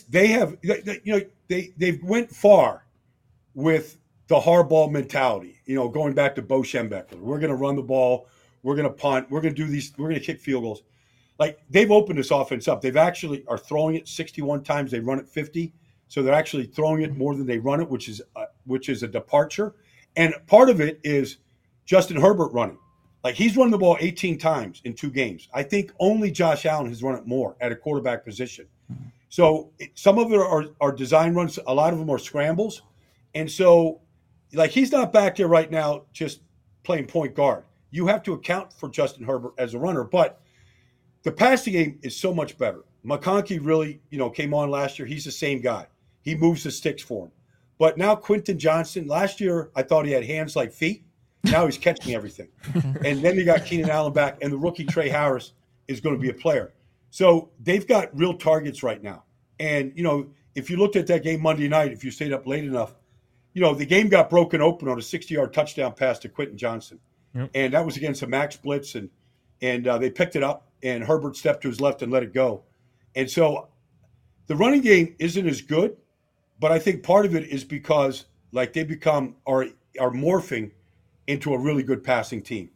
They've went far with the Harbaugh mentality. Going back to Bo Schembechler, we're going to run the ball, we're going to punt, we're going to do these, we're going to kick field goals. Like, they've opened this offense up. They've actually are throwing it 61 times. They run it 50. So they're actually throwing it more than they run it, which is a departure. And part of it is Justin Herbert running. Like, he's run the ball 18 times in 2 games. I think only Josh Allen has run it more at a quarterback position. So some of it are design runs. A lot of them are scrambles. And so, like, he's not back there right now just playing point guard. You have to account for Justin Herbert as a runner. But the passing game is so much better. McConkey really, came on last year. He's the same guy. He moves the sticks for him. But now Quentin Johnson, last year I thought he had hands like feet. Now he's catching everything. And then you got Keenan Allen back, and the rookie Trey Harris is going to be a player. So they've got real targets right now. And, if you looked at that game Monday night, if you stayed up late enough, the game got broken open on a 60-yard touchdown pass to Quentin Johnson. Yep. And that was against a max blitz, and they picked it up. And Herbert stepped to his left and let it go. And so the running game isn't as good, but I think part of it is because like they are morphing into a really good passing team.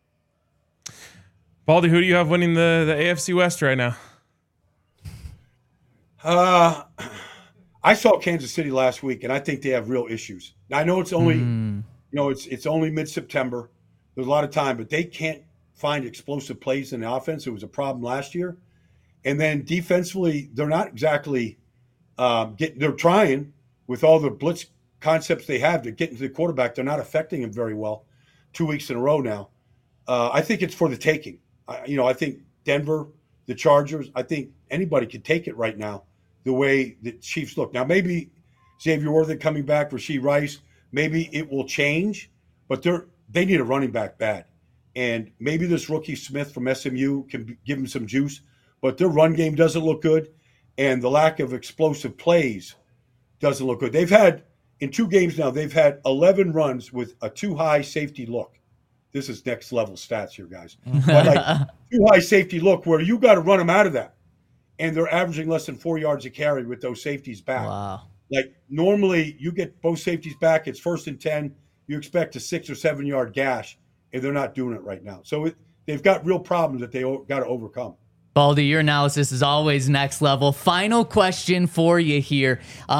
Baldy, who do you have winning the AFC West right now? I saw Kansas City last week, and I think they have real issues. Now, I know it's only it's only mid-September. There's a lot of time, but they can't find explosive plays in the offense. It was a problem last year. And then defensively, they're not exactly they're trying with all the blitz concepts they have to get into the quarterback. They're not affecting him very well 2 weeks in a row now. I think it's for the taking. I think Denver, the Chargers, I think anybody could take it right now the way the Chiefs look. Now, maybe Xavier Worthy coming back, Rashee Rice, maybe it will change, but they need a running back bad. And maybe this rookie Smith from SMU can give them some juice, but their run game doesn't look good, and the lack of explosive plays doesn't look good. They've had, in 2 games now, they've had 11 runs with a too high safety look. This is next level stats here, guys. But like too high safety look where you got to run them out of that. And they're averaging less than 4 yards a carry with those safeties back. Wow. Like normally you get both safeties back, it's 1st and 10. You expect a 6 or 7 yard gash, and they're not doing it right now. So they've got real problems that they got to overcome. Baldy, your analysis is always next level. Final question for you here.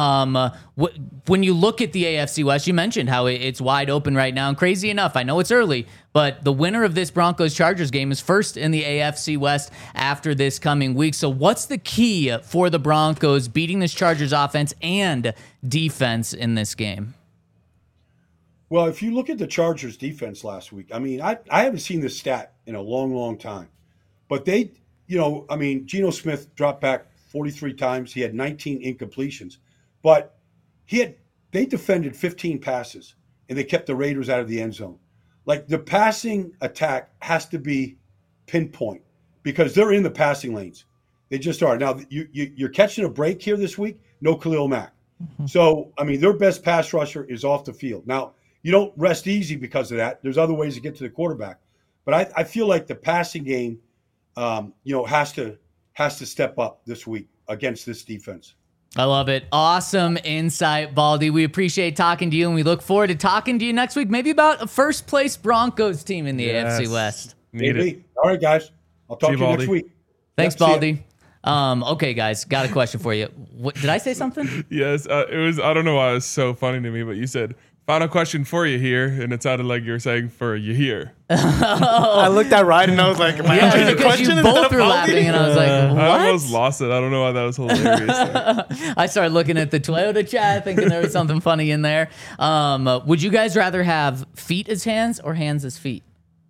When you look at the AFC West, you mentioned how it's wide open right now. And crazy enough, I know it's early, but the winner of this Broncos-Chargers game is first in the AFC West after this coming week. So what's the key for the Broncos beating this Chargers offense and defense in this game? Well, if you look at the Chargers defense last week, I mean, I haven't seen this stat in a long, long time. But Geno Smith dropped back 43 times. He had 19 incompletions. But they defended 15 passes, and they kept the Raiders out of the end zone. Like, the passing attack has to be pinpoint because they're in the passing lanes. They just are. Now, you're catching a break here this week, no Khalil Mack. Mm-hmm. So, I mean, their best pass rusher is off the field. Now, you don't rest easy because of that. There's other ways to get to the quarterback. But I feel like the passing game has to step up this week against this defense. I love it. Awesome insight, Baldy. We appreciate talking to you, and we look forward to talking to you next week, maybe about a first-place Broncos team in the AFC West. Maybe. All right, guys. I'll talk to you next week. Thanks, Baldy. Okay, guys, got a question for you. Did I say something? Yes, it was. I don't know why it was so funny to me, but you said, final question for you here, and it sounded like you were saying for you here. I looked at Ryan and I was like, am I answering the question? You both were laughing, and I was like, what? I almost lost it. I don't know why that was hilarious. I started looking at the Toyota chat, thinking there was something funny in there. Would you guys rather have feet as hands or hands as feet?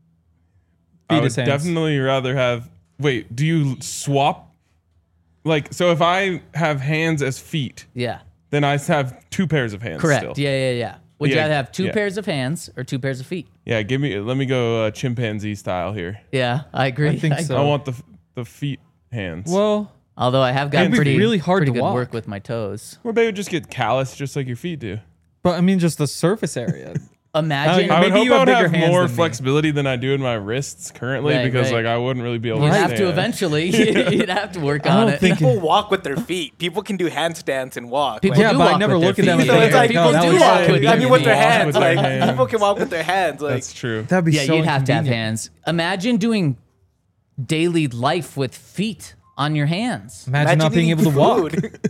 I would definitely rather have. Wait, do you swap? Like, so if I have hands as feet, then I have 2 pairs of hands. Correct. Still. Yeah. Would you rather have 2 pairs of hands or 2 pairs of feet? Yeah, let me go chimpanzee style here. Yeah, I agree. I think so. I want the feet hands. Well, although I have got pretty good walk. Work with my toes. Or they would just get calloused just like your feet do. But I mean, just the surface area. Imagine. I would Maybe hope you I have would bigger have hands more than me. flexibility than I do in my wrists currently because like I wouldn't really be able to You'd stand. have to eventually. You'd have to work on it. People walk with their feet. People can do handstands and walk. People Yeah, do but I walk never with their look at them feet. and So it's like think, people that do was walk. shitty. I mean, with their Walk hands. with their Like hands. people can walk with their hands. Like That's true. That'd be so You'd have to have inconvenient. hands. Imagine doing daily life with feet on your hands. Imagine not being able to walk.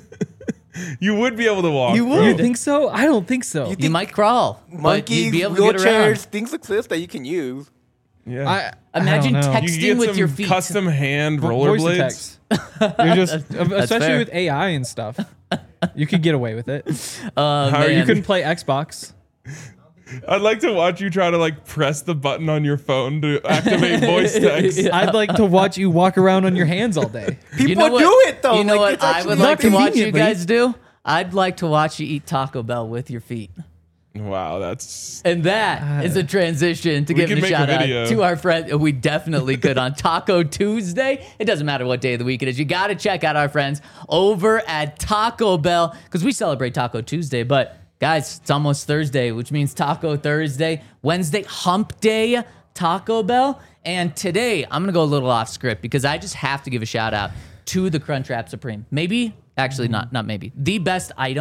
You would be able to walk. You bro. would. You think so? I don't think so. You might crawl. but Monkeys, you'd be able to get around. wheelchairs, things exist that you can use. Yeah. Imagine I don't know. You texting could get with some your feet. custom hand Voice rollerblades. text. You're just, especially fair. with AI and stuff, you could get away with it. Man. You couldn't play Xbox. I'd like to watch you try to like press the button on your phone to activate voice text. I'd like to watch you walk around on your hands all day. People You know what- do it though. You know Like, what it's I actually would not like to watch you conveniently. guys do? I'd like to watch you eat Taco Bell with your feet. Wow, that's And that is a transition to give could a make a shout out video. to our friend. We definitely could on Taco Tuesday. It doesn't matter what day of the week it is. You got to check out our friends over at Taco Bell because we celebrate Taco Tuesday. But guys, it's almost Thursday, which means Taco Thursday. Wednesday, Hump Day, Taco Bell. And today, I'm going to go a little off script because I just have to give a shout out to the Crunchwrap Supreme. Maybe, actually not maybe, the best item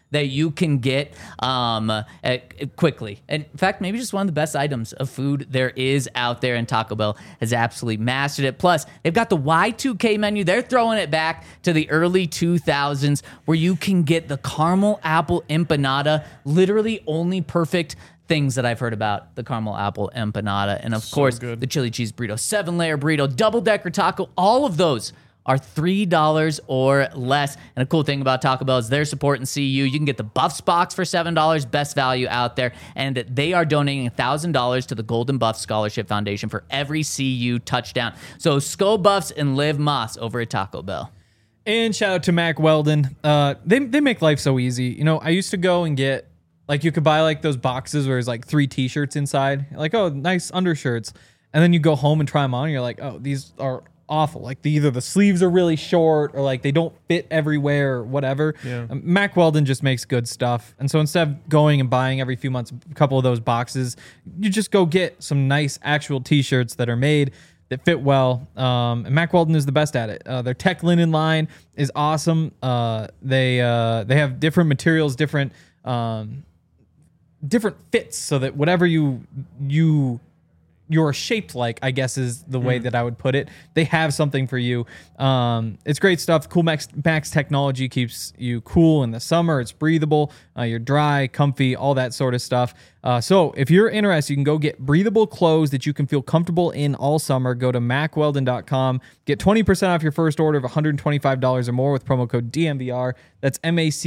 that you can get quickly. In fact, maybe just one of the best items of food there is out there, and Taco Bell has absolutely mastered it. Plus, they've got the Y2K menu. They're throwing it back to the early 2000s where you can get the caramel apple empanada, literally only perfect things that I've heard about the caramel apple empanada. And of course, good. the chili cheese burrito, 7-layer burrito, double-decker taco, all of those are $3 or less. And a cool thing about Taco Bell is their support and CU. You can get the Buffs box for $7, best value out there. And they are donating $1,000 to the Golden Buff Scholarship Foundation for every CU touchdown. So Skull Buffs and Liv Moss over at Taco Bell. And shout out to Mac Weldon. They make life so easy. You know, I used to go and get, like, you could buy like those boxes where there's like 3 t-shirts inside. Like, oh, nice undershirts. And then you go home and try them on and you're like, oh, these are awful. Like either the sleeves are really short or like they don't fit everywhere or whatever. Yeah. Mac Weldon just makes good stuff. And so instead of going and buying every few months a couple of those boxes, you just go get some nice actual t-shirts that are made that fit well. And Mac Weldon is the best at it. Their tech linen line is awesome. They have different materials, different fits so that whatever you're shaped like, I guess is the way that I would put it. They have something for you. It's great stuff. Cool Max technology keeps you cool in the summer. It's breathable. You're dry, comfy, all that sort of stuff. So if you're interested, you can go get breathable clothes that you can feel comfortable in all summer. Go to macweldon.com. Get 20% off your first order of $125 or more with promo code DMVR. That's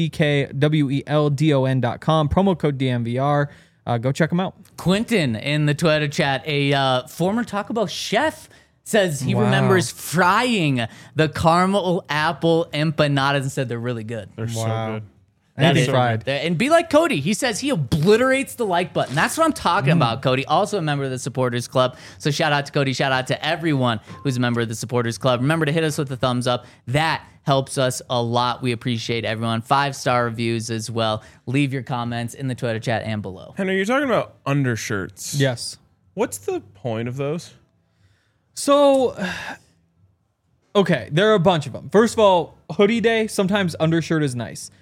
MACKWELDON.com. Promo code DMVR. Go check them out. Quentin in the Twitter chat, a former Taco Bell chef, says he Wow. remembers frying the caramel apple empanadas and said they're really good. They're so good. And is- fried. And be like Cody. He says he obliterates the like button. That's what I'm talking about, Cody. Also a member of the Supporters Club. So shout out to Cody. Shout out to everyone who's a member of the Supporters Club. Remember to hit us with the thumbs up. That helps us a lot. We appreciate everyone. 5-star reviews as well. Leave your comments in the Twitter chat and below. Henry, you're talking about undershirts. Yes. What's the point of those? So, okay, there are a bunch of them. First of all, hoodie day, sometimes undershirt is nice.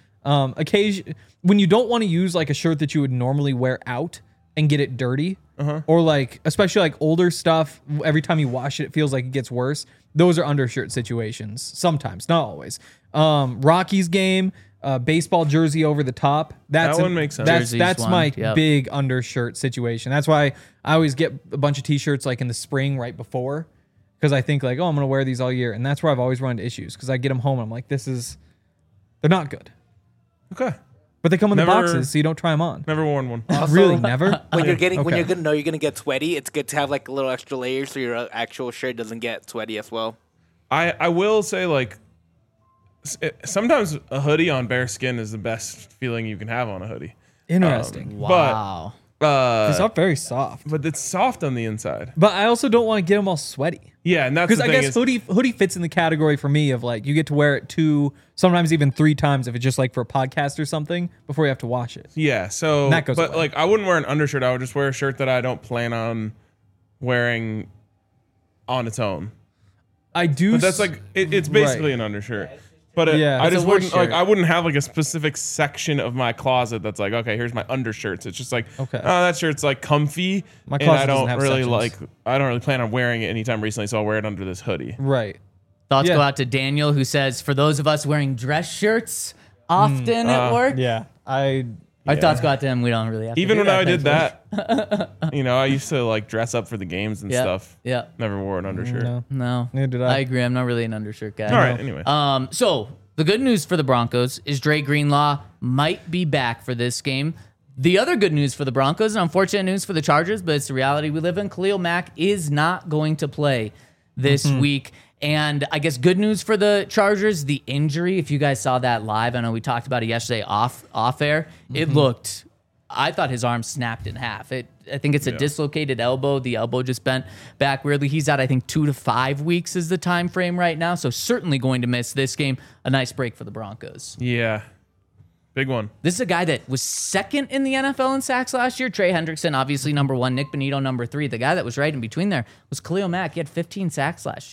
When you don't want to use like a shirt that you would normally wear out and get it dirty, or like, especially like older stuff, every time you wash it, it feels like it gets worse. Those are undershirt situations. Sometimes, not always. Rockies game, baseball jersey over the top. That one makes sense. Jersey's That's one, my yep. big undershirt situation. That's why I always get a bunch of t-shirts like in the spring right before, because I think like, oh, I'm going to wear these all year. And that's where I've always run into issues, because I get them home and I'm like, they're not good. Okay. But they come in Never- the boxes, so you don't try them on. Never worn one. Really, never? When you're getting, when Okay. you're gonna know you're gonna get sweaty, it's good to have like a little extra layer so your actual shirt doesn't get sweaty as well. I will say, like, sometimes a hoodie on bare skin is the best feeling you can have on a hoodie. Interesting. Wow. It's not very soft. But it's soft on the inside. But I also don't want to get them all sweaty. Yeah, and that's Because the I thing guess is, hoodie fits in the category for me of like, you get to wear it 2, sometimes even 3 times if it's just like for a podcast or something before you have to wash it. yeah. So, And that goes but away. like, I wouldn't wear an undershirt. I would just wear a shirt that I don't plan on wearing on its own. I do. But that's like, it's basically an undershirt. But Yeah, I it's just a work wouldn't like. shirt. I wouldn't have like a specific section of my closet that's like, okay, here's my undershirts. It's just like, Okay. oh, that shirt's like comfy, My and closet I doesn't don't have really sections. I don't really plan on wearing it anytime recently, so I'll wear it under this hoodie. Right. Thoughts Yeah. go out to Daniel, who says, for those of us wearing dress shirts often at work, Yeah. our thoughts go out to him. We don't really have to Even do when I that, did thankfully. that, I used to like dress up for the games and Yeah. stuff. Yeah. Never wore an undershirt. No. No. Neither did I. agree. I'm not really an undershirt guy. All right. Anyway, So the good news for the Broncos is Dre Greenlaw might be back for this game. The other good news for the Broncos, and unfortunate news for the Chargers, but it's the reality we live in, Khalil Mack is not going to play this week. And I guess good news for the Chargers, the injury, if you guys saw that live, I know we talked about it yesterday off air, it looked, I thought his arm snapped in half. I think it's a dislocated elbow. The elbow just bent back weirdly. He's out, I think, 2 to 5 weeks is the time frame right now. So certainly going to miss this game. A nice break for the Broncos. yeah, big one. This is a guy that was second in the NFL in sacks last year. Trey Hendrickson, obviously number 1. Nick Bonito, number 3. The guy that was right in between there was Khalil Mack. He had 15 sacks last year.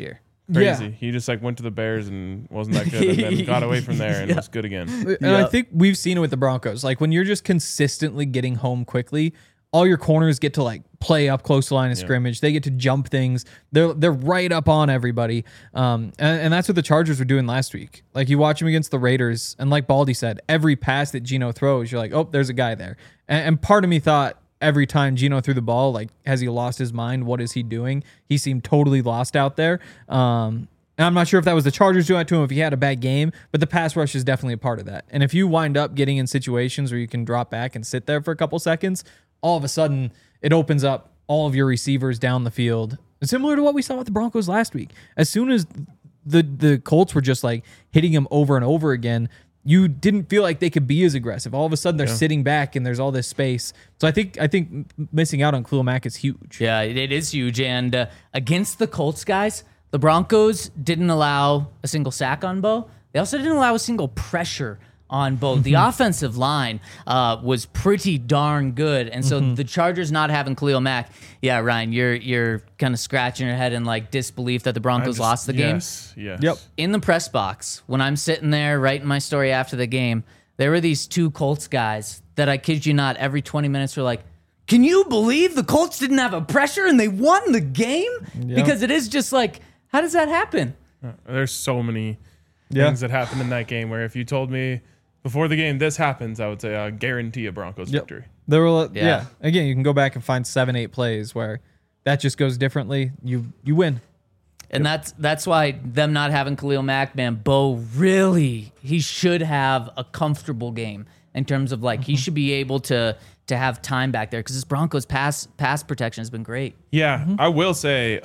crazy. Yeah. He just like went to the Bears and wasn't that good, and then got away from there and was good again. And I think we've seen it with the Broncos. Like when you're just consistently getting home quickly, all your corners get to like play up close to line of scrimmage. They get to jump things. They're right up on everybody. And that's what the Chargers were doing last week. Like you watch them against the Raiders, and like Baldy said, every pass that Geno throws, you're like, oh, there's a guy there. And part of me thought every time Geno threw the ball, like, has he lost his mind? What is he doing? He seemed totally lost out there. And I'm not sure if that was the Chargers doing it to him, if he had a bad game, but the pass rush is definitely a part of that. And if you wind up getting in situations where you can drop back and sit there for a couple seconds, all of a sudden it opens up all of your receivers down the field. Similar to what we saw with the Broncos last week. As soon as the Colts were just like hitting him over and over again, you didn't feel like they could be as aggressive. All of a sudden they're sitting back and there's all this space. So I think missing out on Khalil Mack is huge. Yeah, it is huge. And against the Colts, guys, the Broncos didn't allow a single sack on Bo. They also didn't allow a single pressure on Bo. The offensive line was pretty darn good. And so the Chargers not having Khalil Mack, yeah, Ryan, you're kind of scratching your head in like disbelief that the Broncos lost the game. Yes. Yep. In the press box, when I'm sitting there writing my story after the game, there were these two Colts guys that I kid you not, every 20 minutes were like, can you believe the Colts didn't have a pressure and they won the game? Because it is just like, how does that happen? There's so many things that happened in that game where if you told me before the game this happens, I would say I guarantee a Broncos victory. There were Again, you can go back and find 7-8 plays where that just goes differently. You win. And that's why them not having Khalil Mack, man, Bo really, he should have a comfortable game in terms of like he should be able to have time back there because this Broncos pass protection has been great. Yeah, I will say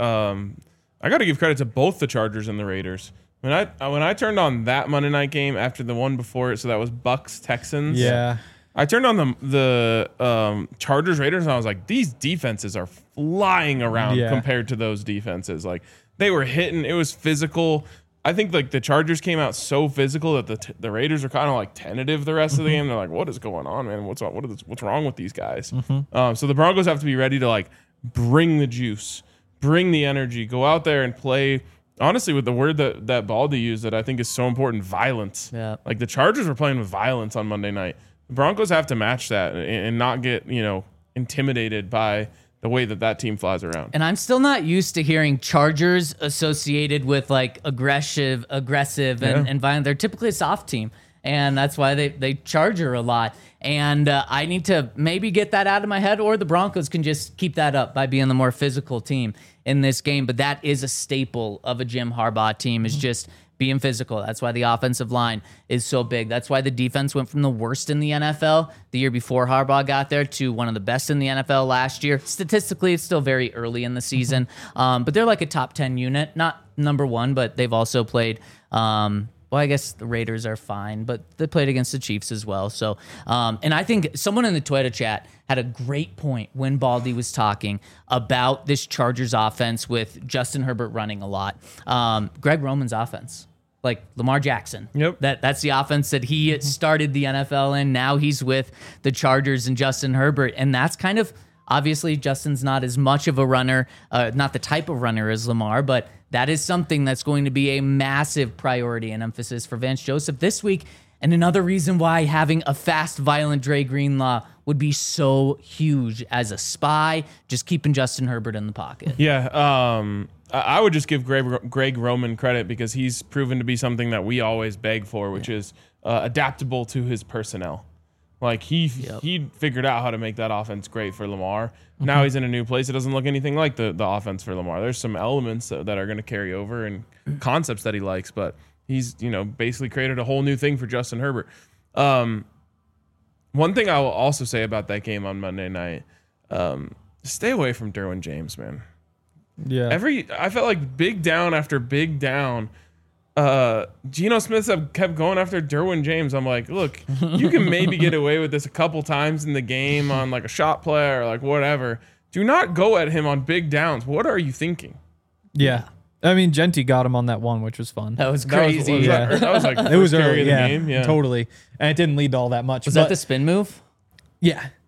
I got to give credit to both the Chargers and the Raiders. When I turned on that Monday night game after the one before it, so that was Bucks Texans. Yeah. I turned on the Chargers Raiders and I was like, these defenses are flying around compared to those defenses. Like they were hitting, it was physical. I think like the Chargers came out so physical that the Raiders are kind of like tentative the rest of the game. They're like, what is going on, man? What's wrong with these guys? So the Broncos have to be ready to like bring the juice, bring the energy, go out there and play. Honestly, with the word that Baldy used that I think is so important, violence. Yeah. Like the Chargers were playing with violence on Monday night. The Broncos have to match that and not get, intimidated by the way that team flies around. And I'm still not used to hearing Chargers associated with like aggressive and violent. They're typically a soft team. And that's why they charger a lot. And I need to maybe get that out of my head, or the Broncos can just keep that up by being the more physical team in this game. But that is a staple of a Jim Harbaugh team, is just being physical. That's why the offensive line is so big. That's why the defense went from the worst in the NFL the year before Harbaugh got there to one of the best in the NFL last year. Statistically, it's still very early in the season. But they're like a top 10 unit. Not number one, but they've also played... well, I guess the Raiders are fine, but they played against the Chiefs as well. So, and I think someone in the Twitter chat had a great point when Baldy was talking about this Chargers offense with Justin Herbert running a lot. Greg Roman's offense, like Lamar Jackson. Yep. That's the offense that he started the NFL in. Now he's with the Chargers and Justin Herbert, and that's kind of... Obviously, Justin's not as much of a runner, not the type of runner as Lamar, but that is something that's going to be a massive priority and emphasis for Vance Joseph this week. And another reason why having a fast, violent Dre Greenlaw would be so huge as a spy, just keeping Justin Herbert in the pocket. Yeah, I would just give Greg Roman credit because he's proven to be something that we always beg for, which is adaptable to his personnel. Like he figured out how to make that offense great for Lamar. Now he's in a new place. It doesn't look anything like the offense for Lamar. There's some elements that are going to carry over and concepts that he likes, but he's basically created a whole new thing for Justin Herbert. One thing I will also say about that game on Monday night, stay away from Derwin James, man. Yeah. I felt like big down after big down. Geno Smith kept going after Derwin James. I'm like, look, you can maybe get away with this a couple times in the game on like a shot play or like whatever. Do not go at him on big downs. What are you thinking? Yeah. I mean, Genty got him on that one, which was fun. That was crazy. That was like it was early, in the game. Yeah, totally. And it didn't lead to all that much. Was that the spin move? Yeah.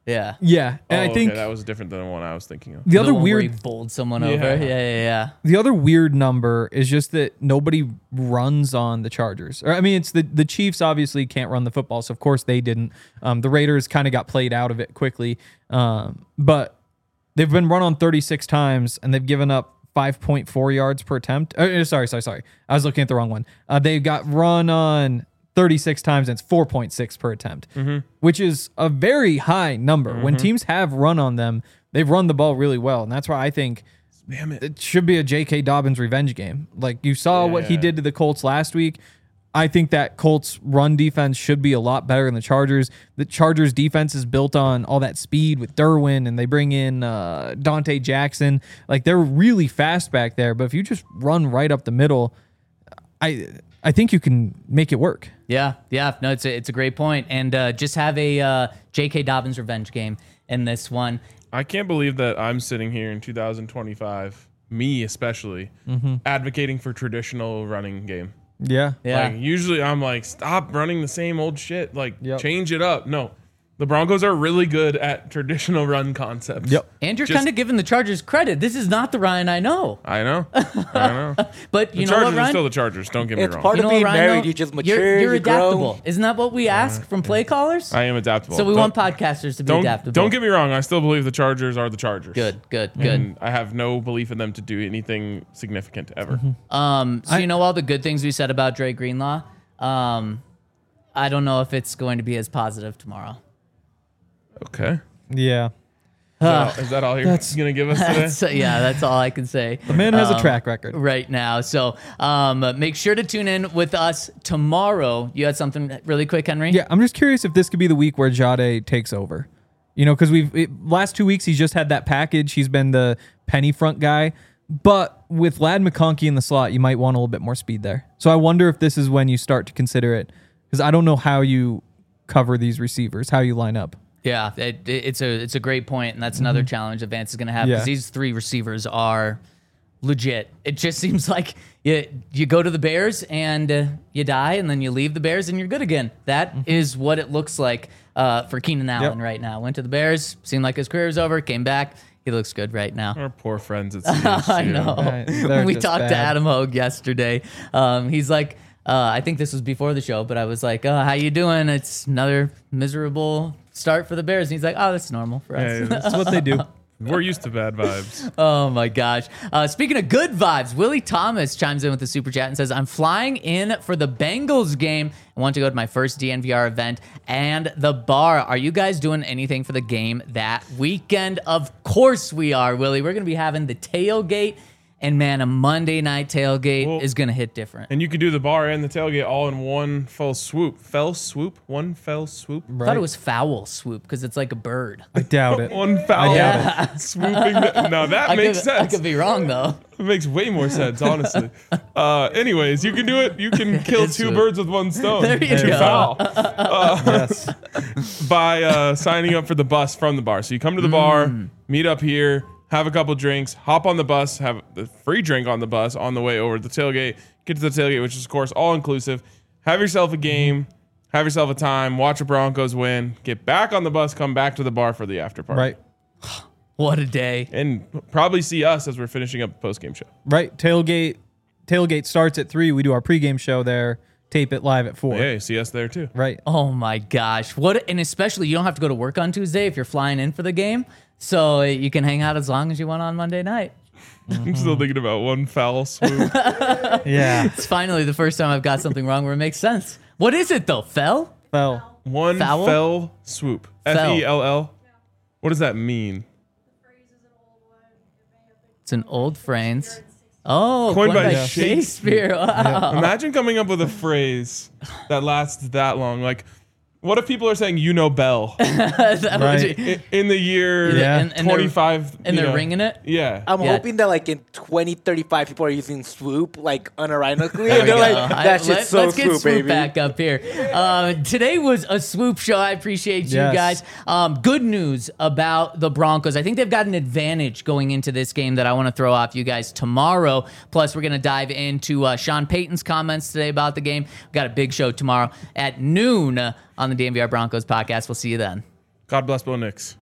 Yeah. Yeah, and I think that was different than the one I was thinking of. the other one where he weird bowled someone over. Yeah. the other weird number is just that nobody runs on the Chargers. Or I mean, it's the Chiefs obviously can't run the football, so of course they didn't. The Raiders kind of got played out of it quickly, but they've been run on 36 times and they've given up 5.4 yards per attempt. Sorry. I was looking at the wrong one. They got run on 36 times and it's 4.6 per attempt, which is a very high number. When teams have run on them, they've run the ball really well. And that's why I think it should be a J.K. Dobbins revenge game. Like you saw what he did to the Colts last week. I think that Colts run defense should be a lot better than the Chargers. The Chargers defense is built on all that speed with Derwin, and they bring in Dante Jackson. Like they're really fast back there. But if you just run right up the middle, I think you can make it work. Yeah. No, it's a great point. And just have a J.K. Dobbins revenge game in this one. I can't believe that I'm sitting here in 2025, me especially, advocating for traditional running game. Yeah. Like, usually I'm like, stop running the same old shit. Like, Yep. change it up. No. The Broncos are really good at traditional run concepts. Yep. And you're Just- kind of giving the Chargers credit. This is not the Ryan I know. I know. But you The know Chargers what, are Ryan? still the Chargers. Don't get me It's wrong. part You of know being what, Ryan, married. though? You just mature. You're you grow. adaptable. Isn't that what we ask from play callers? I am adaptable. So we want podcasters to be adaptable. Don't get me wrong. I still believe the Chargers are the Chargers. Good. And I have no belief in them to do anything significant ever. So you know all the good things we said about Dre Greenlaw. I don't know if it's going to be as positive tomorrow. Okay. Yeah. Is that all you're going to give us today? So, yeah, that's all I can say. The man has a track record. Right now. So make sure to tune in with us tomorrow. You had something really quick, Henry? Yeah, I'm just curious if this could be the week where Jade takes over. You know, because last 2 weeks he's just had that package. He's been the penny front guy. But with Ladd McConkey in the slot, you might want a little bit more speed there. So I wonder if this is when you start to consider it. Because I don't know how you cover these receivers, how you line up. Yeah, it's a great point, and that's another challenge that Vance is going to have because Yeah. these three receivers are legit. It just seems like you go to the Bears and you die, and then you leave the Bears and you're good again. That is what it looks like for Keenan Allen right now. Went to the Bears, seemed like his career was over, came back. He looks good right now. Our poor friends at CSU. I know. They're We just talked to bad. Adam Hogue yesterday. He's like, I think this was before the show, but I was like, how you doing? It's another miserable start for the Bears. And he's like, that's normal for us. Hey, That's what they do. we're used to bad vibes. Oh my gosh. Speaking of good vibes, Willie Thomas chimes in with the super chat and says, I'm flying in for the Bengals game. I want to go to my first DNVR event and the bar. Are you guys doing anything for the game that weekend? Of course we are, Willie. We're going to be having the tailgate. And man, a Monday night tailgate is going to hit different. And you can do the bar and the tailgate all in one fell swoop. One fell swoop. I thought it was foul swoop because it's like a bird. I doubt it. One foul swooping. No, that makes I sense. could be wrong though. It makes way more sense, honestly. Anyways, you can do it. You can kill It's two a- birds with one stone. There you Two go. foul. Yes. By signing up for the bus from the bar. So you come to the bar, meet up here, have a couple drinks, hop on the bus, have the free drink on the bus on the way over to the tailgate, get to the tailgate, which is, of course, all inclusive. Have yourself a game, have yourself a time, watch the Broncos win, get back on the bus, come back to the bar for the after party. Right. What a day. And probably see us as we're finishing up the post-game show. Right. Tailgate starts at 3. We do our pregame show there. Tape it live at 4. Hey, see us there too. Right. Oh my gosh. And especially you don't have to go to work on Tuesday if you're flying in for the game. So you can hang out as long as you want on Monday night. I'm still thinking about one foul swoop. Yeah. It's finally the first time I've got something wrong where it makes sense. What is it though? Fell? Well, One Foul? fell swoop. Fell. Fell. What does that mean? It's an old phrase. Oh, Coined by Shakespeare. Wow. Imagine coming up with a phrase that lasts that long. Like, what if people are saying, you know, Bell That would Right. be- in the year Yeah. And they're- 25? and you they're know. ringing it? Yeah. I'm Yeah. hoping that like in 2035 people are using swoop like unironically. There we And they're go. like, that shit's so Let's get swoop, Swoop baby. back up here. Today was a Swoop show. I appreciate you Yes. guys. Good news about the Broncos. I think they've got an advantage going into this game that I want to throw off you guys tomorrow. Plus, we're going to dive into Sean Payton's comments today about the game. We've got a big show tomorrow at noon on the DNVR Broncos podcast. We'll see you then. God bless Bo Nix.